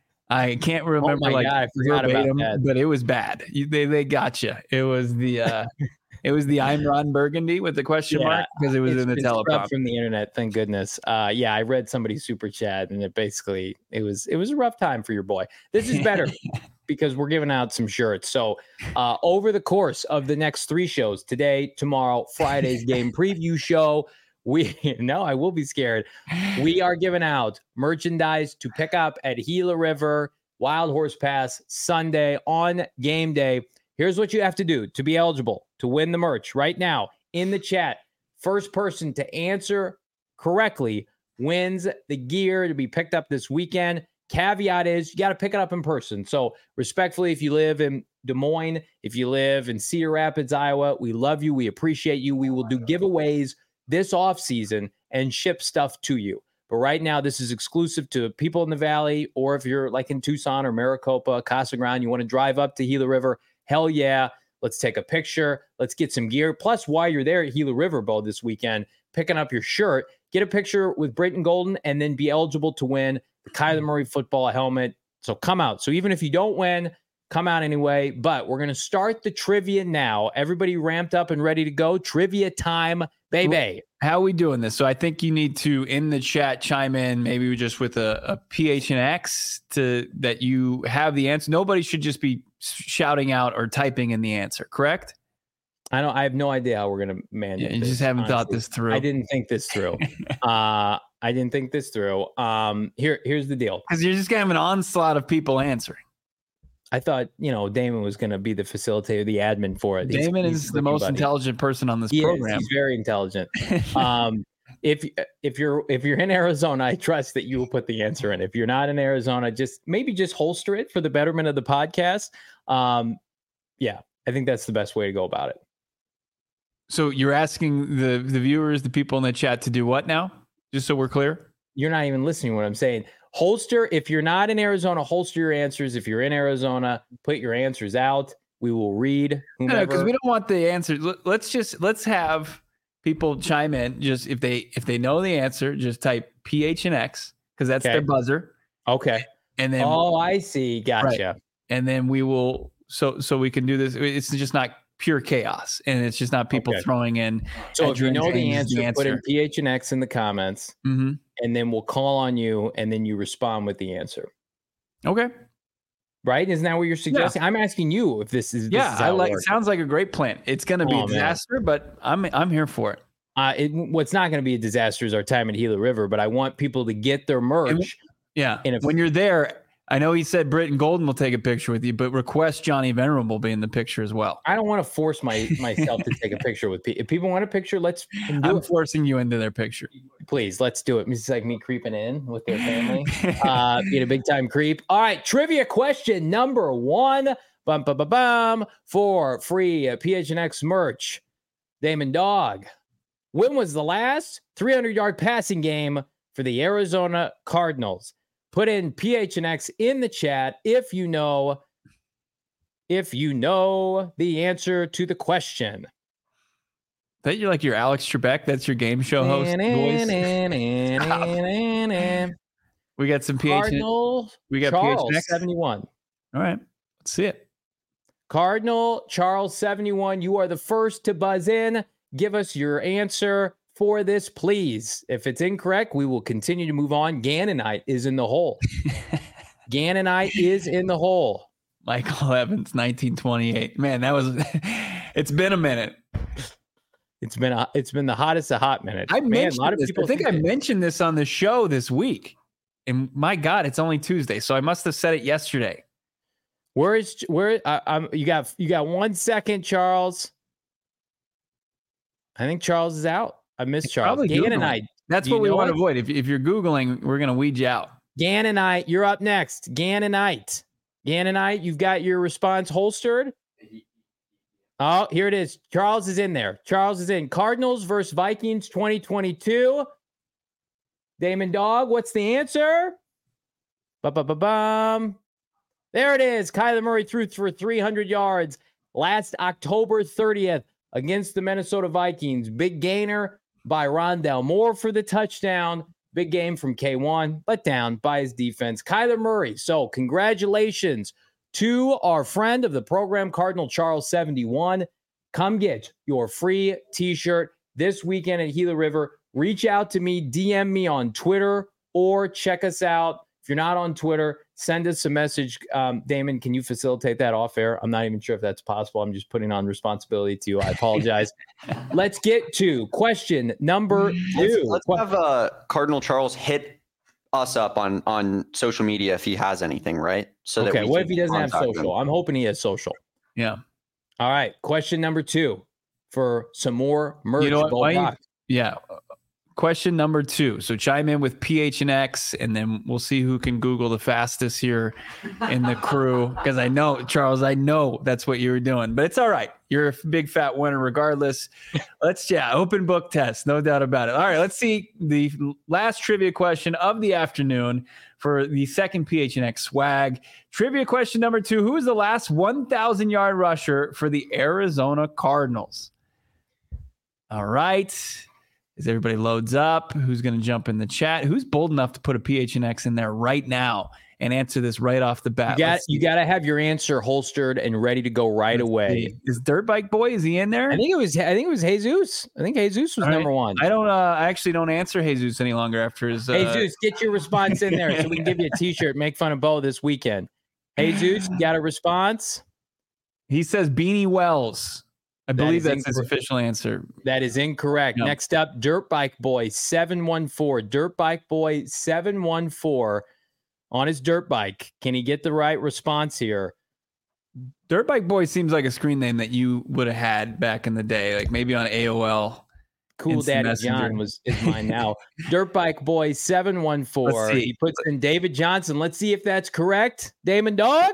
Speaker 2: I can't remember
Speaker 1: my
Speaker 2: like
Speaker 1: God, I forgot about
Speaker 2: verbatim,
Speaker 1: that.
Speaker 2: but it was bad. You, they they got you. It was the uh, it was the I'm Ron Burgundy with the question
Speaker 1: Yeah,
Speaker 2: mark because it was
Speaker 1: It's
Speaker 2: in the
Speaker 1: been scrubbed
Speaker 2: teleprompter.
Speaker 1: from the internet. Thank goodness. Uh, yeah, I read somebody's super chat, and it basically it was it was a rough time for your boy. This is better because we're giving out some shirts. So uh, over the course of the next three shows, today, tomorrow, Friday's game preview show, we no, I will be scared. We are giving out merchandise to pick up at Gila River Wild Horse Pass Sunday on game day. Here's what you have to do to be eligible to win the merch right now in the chat. First person to answer correctly wins the gear to be picked up this weekend. Caveat is you got to pick it up in person. So respectfully, if you live in Des Moines, if you live in Cedar Rapids, Iowa, we love you. We appreciate you. We will do giveaways this off season and ship stuff to you. But right now, this is exclusive to people in the Valley, or if you're like in Tucson or Maricopa, Casa Grande, you want to drive up to Gila River, hell yeah. Let's take a picture. Let's get some gear. Plus, while you're there at Gila River Bowl this weekend, picking up your shirt, get a picture with Britton Golden, and then be eligible to win the Kyler Murray football helmet. So come out. So even if you don't win, come out anyway. But we're going to start the trivia now. Everybody ramped up and ready to go. Trivia time, baby.
Speaker 2: How are we doing this? So I think you need to, in the chat, chime in maybe just with a, a P H N X to that you have the answer. Nobody should just be shouting out or typing in the answer, correct?
Speaker 1: I don't. I have no idea how we're going to manage.
Speaker 2: Yeah, you
Speaker 1: this,
Speaker 2: just haven't
Speaker 1: honestly.
Speaker 2: thought this through.
Speaker 1: I didn't think this through. uh, I didn't think this through. Um, here, here's the deal.
Speaker 2: Because you're just going to have an onslaught of people answering.
Speaker 1: I thought, you know, Damon was going to be the facilitator, the admin for it. He's-
Speaker 2: Damon
Speaker 1: he's
Speaker 2: is the most
Speaker 1: buddy.
Speaker 2: intelligent person on this
Speaker 1: He is.
Speaker 2: program.
Speaker 1: He's very intelligent. Um, if if you're if you're in Arizona, I trust that you will put the answer in. If you're not in Arizona, just maybe just holster it for the betterment of the podcast. Um, yeah, I think that's the best way to go about it.
Speaker 2: So you're asking the the viewers, the people in the chat, to do what now? Just so we're clear.
Speaker 1: You're not even listening to what I'm saying. Holster, if you're not in Arizona, holster your answers. If you're in Arizona, put your answers out. We will read whomever.
Speaker 2: because we don't want the answer. Let- Let's just let's have people chime in. Just if they if they know the answer, just type P H N X because that's
Speaker 1: Okay.
Speaker 2: their buzzer,
Speaker 1: Okay.
Speaker 2: and then
Speaker 1: Oh, I see. Gotcha.
Speaker 2: and then we will so so we can do this. It's just not pure chaos, and it's just not people
Speaker 1: Okay.
Speaker 2: throwing in.
Speaker 1: So if you
Speaker 2: Adrian
Speaker 1: know the
Speaker 2: James is
Speaker 1: answer,
Speaker 2: the
Speaker 1: put in
Speaker 2: answer.
Speaker 1: P H N X in the comments,
Speaker 2: Mm-hmm.
Speaker 1: and then we'll call on you, and then you respond with the answer.
Speaker 2: Okay.
Speaker 1: Right? Isn't that what you're suggesting? I'm asking you if this is. This
Speaker 2: Yeah,
Speaker 1: is how
Speaker 2: I
Speaker 1: it
Speaker 2: like.
Speaker 1: works.
Speaker 2: Sounds like a great plan. It's going to be
Speaker 1: Oh,
Speaker 2: a
Speaker 1: man.
Speaker 2: disaster, but I'm I'm here for it.
Speaker 1: Uh, it, what's not going to be a disaster is our time at Gila River, but I want people to get their merch.
Speaker 2: Yeah.
Speaker 1: And if-
Speaker 2: when you're there, I know he said Britton Golden will take a picture with you, but request Johnny Venerable be in the picture as well.
Speaker 1: I don't want to force my myself to take a picture with people. If people want a picture, let's do
Speaker 2: I'm
Speaker 1: it.
Speaker 2: forcing you into their picture.
Speaker 1: Please, let's do it. It's like me creeping in with their family, uh, being a big time creep. All right, trivia question number one. Bum, bum, bum, bum, for free uh, P H N X merch. Damon Dog, when was the last three hundred yard passing game for the Arizona Cardinals? Put in P H N X in the chat if you know, if you know the answer to the question.
Speaker 2: That you're like your Alex Trebek. That's your game show host voice. We got some P H N X.
Speaker 1: Cardinal.
Speaker 2: We got
Speaker 1: Charles,
Speaker 2: P H N X
Speaker 1: seventy-one.
Speaker 2: All right, let's see it.
Speaker 1: Cardinal Charles seventy-one. You are the first to buzz in. Give us your answer for this, please. If it's incorrect, we will continue to move on. Gannonite is in the hole. Gannonite is in the hole.
Speaker 2: Michael Evans, nineteen twenty-eight. Man, that was. It's been a minute.
Speaker 1: It's been a, it's been the hottest of hot minutes.
Speaker 2: I
Speaker 1: Man,
Speaker 2: mentioned
Speaker 1: a lot of
Speaker 2: this.
Speaker 1: people
Speaker 2: I think I mentioned this on the show this week. And my God, it's only Tuesday, so I must have said it yesterday.
Speaker 1: Where is where? Uh, um, you got you got one second, Charles. I think Charles is out. I miss
Speaker 2: It's
Speaker 1: Charles.
Speaker 2: probably
Speaker 1: Gannonite.
Speaker 2: That's
Speaker 1: Do
Speaker 2: what
Speaker 1: you
Speaker 2: we
Speaker 1: know
Speaker 2: want to
Speaker 1: it?
Speaker 2: avoid. If, if you're Googling, we're going to weed you out.
Speaker 1: Gannonite, you're up next. Gannonite. Gannonite, you've got your response holstered. Oh, here it is. Charles is in there. Charles is in. Cardinals versus Vikings twenty twenty-two. Damon Dog, what's the answer? Ba-ba-ba-bum. There it is. Kyler Murray threw for three hundred yards last October thirtieth against the Minnesota Vikings. Big gainer by Rondell Moore for the touchdown. Big game from K one, let down by his defense. Kyler Murray. So congratulations to our friend of the program, Cardinal Charles seventy-one. Come get your free t-shirt this weekend at Gila River. Reach out to me, D M me on Twitter, or check us out. If you're not on Twitter, send us a message. Um, Damon, can you facilitate that off air? I'm not even sure if that's possible. I'm just putting on responsibility to you. I apologize. Let's get to question number two.
Speaker 6: Let's, let's have uh, Cardinal Charles hit us up on on social media if he has anything, right? So
Speaker 1: okay,
Speaker 6: that we
Speaker 1: what
Speaker 6: can
Speaker 1: if he doesn't have
Speaker 6: contact
Speaker 1: social?
Speaker 6: him.
Speaker 1: I'm hoping he has social.
Speaker 2: Yeah.
Speaker 1: All right, question number two for some more merch.
Speaker 2: You know what?
Speaker 1: Bo
Speaker 2: Why you-
Speaker 1: Brock.
Speaker 2: Yeah. Question number two. So chime in with P H N X, and then we'll see who can Google the fastest here in the crew. Because I know, Charles, I know that's what you were doing, but it's all right. You're a big fat winner regardless. Let's, yeah, open book test, no doubt about it. All right, let's see the last trivia question of the afternoon for the second P H N X swag. Trivia question number two. Who is the last one thousand yard rusher for the Arizona Cardinals? All right. As everybody loads up, who's going to jump in the chat? Who's bold enough to put a P H N X in there right now and answer this right off the bat?
Speaker 1: You got
Speaker 2: Let's
Speaker 1: you
Speaker 2: see.
Speaker 1: got to have your answer holstered and ready to go right
Speaker 2: Let's
Speaker 1: away.
Speaker 2: see. Is Dirt Bike Boy, is he in there?
Speaker 1: I think it was I think it was Jesus. I think Jesus was
Speaker 2: All right.
Speaker 1: number one.
Speaker 2: I don't. Uh, I actually don't answer Jesus any longer after his. Uh,
Speaker 1: Jesus, get your response in there so we can give you a T-shirt. Make fun of Bo this weekend. Jesus, you got a response?
Speaker 2: He says Beanie Wells. I
Speaker 1: That
Speaker 2: believe
Speaker 1: is
Speaker 2: that's his
Speaker 1: incorrect.
Speaker 2: official answer.
Speaker 1: That is incorrect.
Speaker 2: No.
Speaker 1: Next up, Dirt Bike Boy seven one four. Dirt Bike Boy seven one four on his dirt bike. Can he get the right response here?
Speaker 2: Dirt Bike Boy seems like a screen name that you would have had back in the day, like maybe on A O L.
Speaker 1: Cool
Speaker 2: Instant
Speaker 1: Daddy
Speaker 2: Messenger.
Speaker 1: John was is mine now. Dirt Bike Boy seven one four.
Speaker 2: Let's see.
Speaker 1: He puts in David Johnson. Let's see if that's correct. Damon Dog?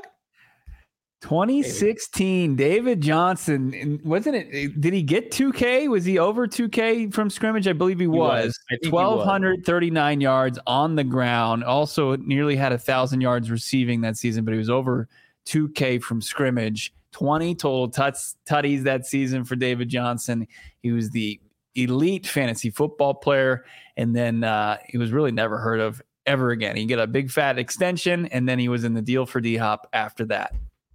Speaker 2: twenty sixteen, David Johnson. And wasn't it? Did he get two K? Was he over two K from scrimmage? I believe he was.
Speaker 1: was. I think he was.
Speaker 2: twelve thirty-nine yards on the ground. Also, nearly had a thousand yards receiving that season, but he was over two K from scrimmage. twenty total tuts, tutties that season for David Johnson. He was the elite fantasy football player, and then uh, he was really never heard of ever again. He got a big fat extension, and then he was in the deal for D-Hop after that.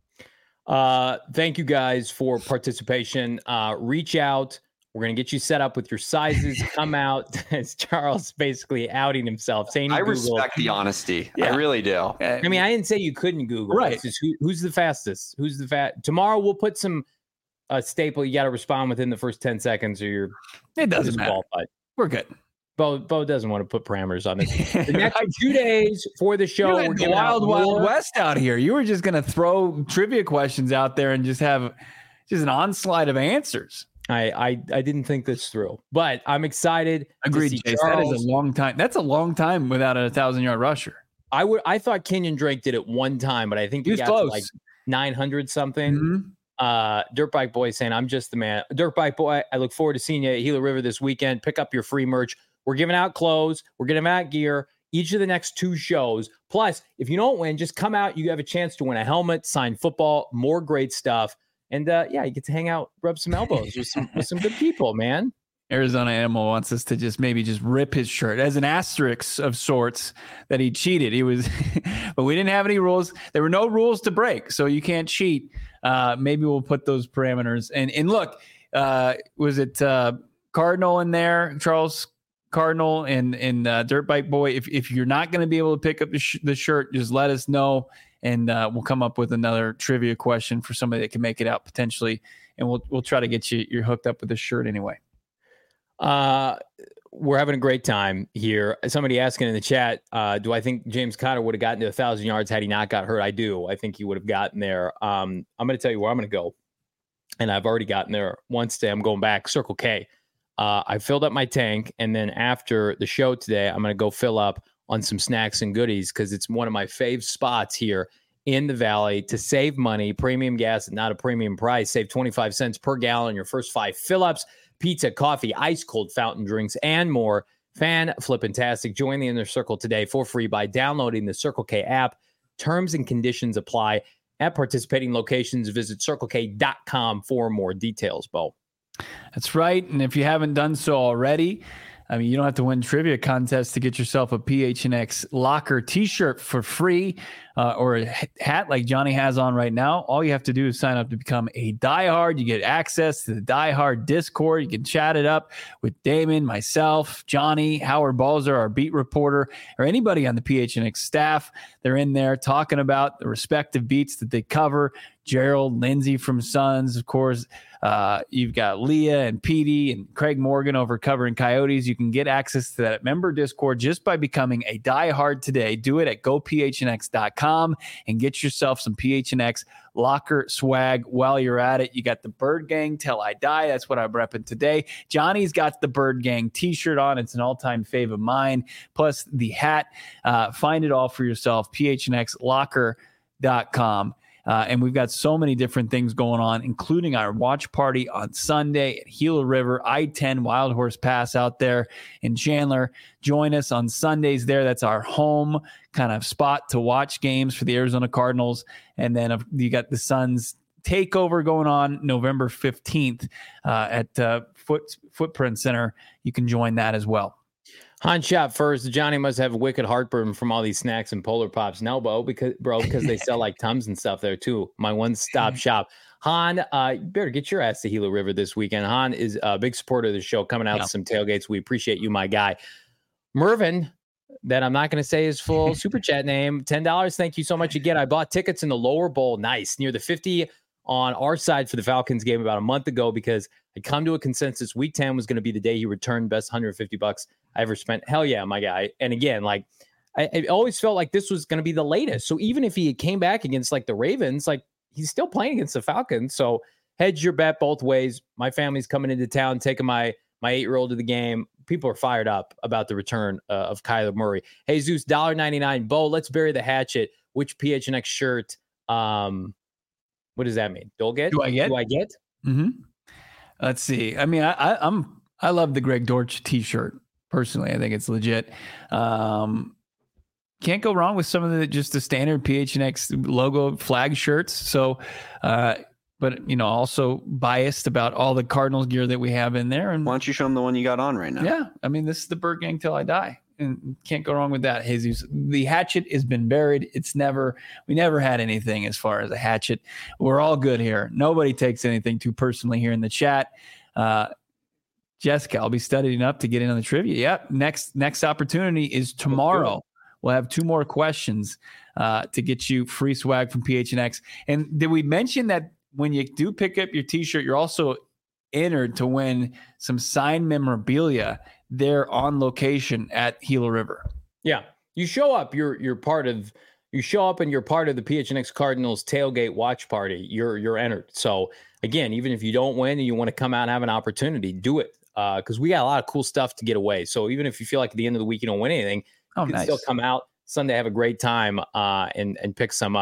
Speaker 1: Uh, thank you guys for participation. Uh, reach out. We're going to get you set up with your sizes. Come out. As Charles basically outing himself, saying he
Speaker 6: I
Speaker 1: Googled.
Speaker 6: respect the honesty.
Speaker 2: Yeah.
Speaker 6: I really do.
Speaker 2: Uh,
Speaker 1: I mean, I didn't say you couldn't Google.
Speaker 2: Right.
Speaker 1: It's just who, who's the fastest? Who's the fat? Tomorrow we'll put some uh, staple. You got to respond within the first ten seconds, or you're
Speaker 2: it doesn't matter.
Speaker 1: disqualified.
Speaker 2: We're good.
Speaker 1: Bo Bo doesn't want to put parameters on this. The next two days for the show,
Speaker 2: You
Speaker 1: we're
Speaker 2: had the
Speaker 1: giving out
Speaker 2: wild, wild
Speaker 1: more-
Speaker 2: west out here. You were just going to throw trivia questions out there and just have just an onslaught of answers.
Speaker 1: I, I I didn't think this through, but I'm excited. to
Speaker 2: Agreed,
Speaker 1: see
Speaker 2: Chase. That is
Speaker 1: Charles.
Speaker 2: a long time. That's a long time without a thousand yard rusher.
Speaker 1: I would I thought Kenyon Drake did it one time, but I think
Speaker 2: He
Speaker 1: he,
Speaker 2: was
Speaker 1: got
Speaker 2: close.
Speaker 1: to like nine hundred something.
Speaker 2: Mhm.
Speaker 1: Uh, Dirt Bike Boy saying, I'm just the man. Dirt Bike Boy, I look forward to seeing you at Gila River this weekend. Pick up your free merch. We're giving out clothes. We're giving out gear each of the next two shows. Plus, if you don't win, just come out. You have a chance to win a helmet, signed football, more great stuff. And uh, yeah, you get to hang out, rub some elbows with some with some good people, man.
Speaker 2: Arizona Animal wants us to just maybe just rip his shirt as an asterisk of sorts that he cheated. He was, but we didn't have any rules. There were no rules to break, so you can't cheat. Uh, maybe we'll put those parameters. And and look, uh, was it uh, Cardinal in there, Charles Cardinal and and uh, Dirt Bike Boy? If if you're not going to be able to pick up the, sh- the shirt, just let us know, and uh, we'll come up with another trivia question for somebody that can make it out potentially, and we'll we'll try to get you you're hooked up with the shirt anyway.
Speaker 1: Uh, we're having a great time here. Somebody asking in the chat, uh, do I think James Conner would have gotten to a thousand yards had he not got hurt? I do. I think he would have gotten there. Um, I'm going to tell you where I'm going to go. And I've already gotten there once today. I'm going back Circle K. Uh, I filled up my tank. And then after the show today, I'm going to go fill up on some snacks and goodies because it's one of my fave spots here in the Valley to save money. Premium gas at not a premium price. Save twenty-five cents per gallon on your first five fill-ups. Pizza, coffee, ice cold fountain drinks, and more. Fan flippantastic. Join the Inner Circle today for free by downloading the Circle K app. Terms and conditions apply at participating locations. Visit circle k dot com for more details, Bo.
Speaker 2: That's right. And if you haven't done so already, I mean, you don't have to win trivia contests to get yourself a P H N X locker t-shirt for free uh, or a hat like Johnny has on right now. All you have to do is sign up to become a diehard. You get access to the diehard Discord. You can chat it up with Damon, myself, Johnny, Howard Balzer, our beat reporter, or anybody on the P H N X staff. They're in there talking about the respective beats that they cover. Gerald, Lindsay from Suns, of course. Uh, you've got Leah and Petey and Craig Morgan over covering Coyotes. You can get access to that member Discord just by becoming a diehard today. Do it at go p h n x dot com and get yourself some P H N X locker swag while you're at it. You got the Bird Gang Till I Die. That's what I'm repping today. Johnny's got the Bird Gang t-shirt on. It's an all-time fave of mine. Plus the hat. Uh, find it all for yourself. p h n x locker dot com. Uh, and we've got so many different things going on, including our watch party on Sunday at Gila River, I ten Wild Horse Pass out there in Chandler. Join us on Sundays there. That's our home kind of spot to watch games for the Arizona Cardinals. And then uh, you got the Suns takeover going on November fifteenth uh, at uh, Foot, Footprint Center. You can join that as well.
Speaker 1: Han shot first. Johnny must have a wicked heartburn from all these snacks and Polar Pops. No, Bo, because bro, because they sell like Tums and stuff there too. My one-stop shop. Han, uh, you better get your ass to Gila River this weekend. Han is a big supporter of the show, coming out yeah. to some tailgates. We appreciate you, my guy. Mervin, that I'm not going to say his full super chat name. ten dollars. Thank you so much again. I bought tickets in the lower bowl. Nice. Near the fifty on our side for the Falcons game about a month ago because I'd come to a consensus. Week ten was going to be the day he returned best one hundred fifty bucks I ever spent. Hell yeah, my guy. And again, like I, I always felt like this was going to be the latest. So even if he came back against like the Ravens, like he's still playing against the Falcons. So hedge your bet both ways. My family's coming into town, taking my my eight-year-old to the game. People are fired up about the return uh, of Kyler Murray. Hey, Zeus, one dollar ninety-nine. Bo, let's bury the hatchet. Which P H N X shirt? Um, what does that mean? Do I get?
Speaker 2: Do I get?
Speaker 1: Do I get?
Speaker 2: Mm-hmm. Let's see. I mean, I, I, I'm I love the Greg Dortch T-shirt personally. I think it's legit. Um, can't go wrong with some of the just the standard P H N X logo flag shirts. So, uh, but you know, also biased about all the Cardinals gear that we have in there. And
Speaker 6: why don't you show them the one you got on right now?
Speaker 2: Yeah, I mean, this is the Bird Gang Till I Die. And can't go wrong with that, Jesus. The hatchet has been buried. It's never, we never had anything as far as a hatchet. We're all good here. Nobody takes anything too personally here in the chat. Uh, Jessica, I'll be studying up to get in on the trivia. Yep. Next, next opportunity is tomorrow. We'll have two more questions uh, to get you free swag from P H N X. And did we mention that when you do pick up your t-shirt, you're also entered to win some signed memorabilia there on location at Gila River?
Speaker 1: Yeah. You show up, you're you're part of you show up and you're part of the P H N X Cardinals tailgate watch party. You're you're entered. So again, even if you don't win and you want to come out and have an opportunity, do it. Uh, because we got a lot of cool stuff to get away. So even if you feel like at the end of the week you don't win anything,
Speaker 2: oh,
Speaker 1: you can
Speaker 2: nice.
Speaker 1: still come out Sunday, have a great time, uh, and and pick some up.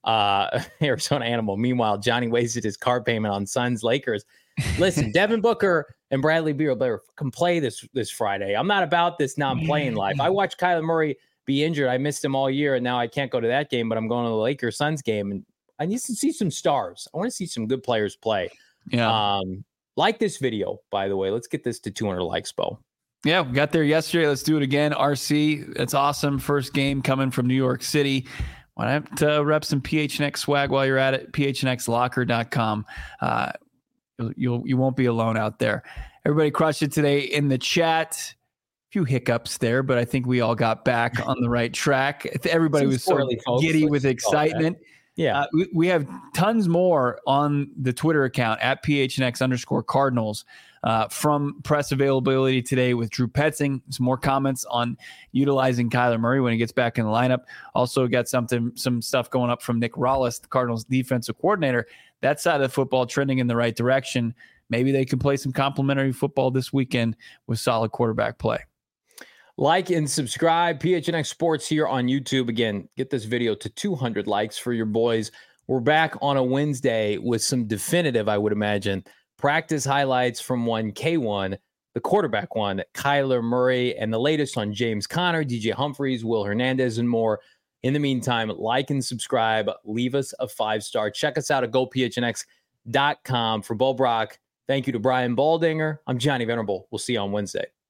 Speaker 1: Uh, Arizona Animal. Meanwhile, Johnny wasted his car payment on Suns Lakers. Listen, Devin Booker and Bradley Beal better can play this this Friday. I'm not about this non-playing life. I watched Kyler Murray be injured. I missed him all year, and now I can't go to that game, but I'm going to the Lakers Suns game, and I need to see some stars. I want to see some good players play.
Speaker 2: Yeah.
Speaker 1: Um, like this video, by the way. Let's get this to two hundred likes, Bo.
Speaker 2: Yeah, we got there yesterday. Let's do it again. R C, that's awesome. First game coming from New York City. Why not uh, rep some P H N X swag while you're at it? P H N X locker dot com. Uh, you'll, you'll, you won't be alone out there. Everybody crushed it today in the chat. A few hiccups there, but I think we all got back on the right track. Everybody was so giddy with excitement.
Speaker 1: Yeah.
Speaker 2: Uh, we, we have tons more on the Twitter account at P H N X underscore Cardinals uh, from press availability today with Drew Petzing. Some more comments on utilizing Kyler Murray when he gets back in the lineup. Also got something, some stuff going up from Nick Rollis, the Cardinals defensive coordinator. That side of the football trending in the right direction. Maybe they can play some complimentary football this weekend with solid quarterback play.
Speaker 1: Like and subscribe. P H N X Sports here on YouTube. Again, get this video to two hundred likes for your boys. We're back on a Wednesday with some definitive, I would imagine, practice highlights from one K one, the quarterback one, Kyler Murray, and the latest on James Conner, D J Humphries, Will Hernandez, and more. In the meantime, like and subscribe. Leave us a five-star. Check us out at go P H N X dot com. For Bo Brock, thank you to Brian Baldinger. I'm Johnny Venerable. We'll see you on Wednesday.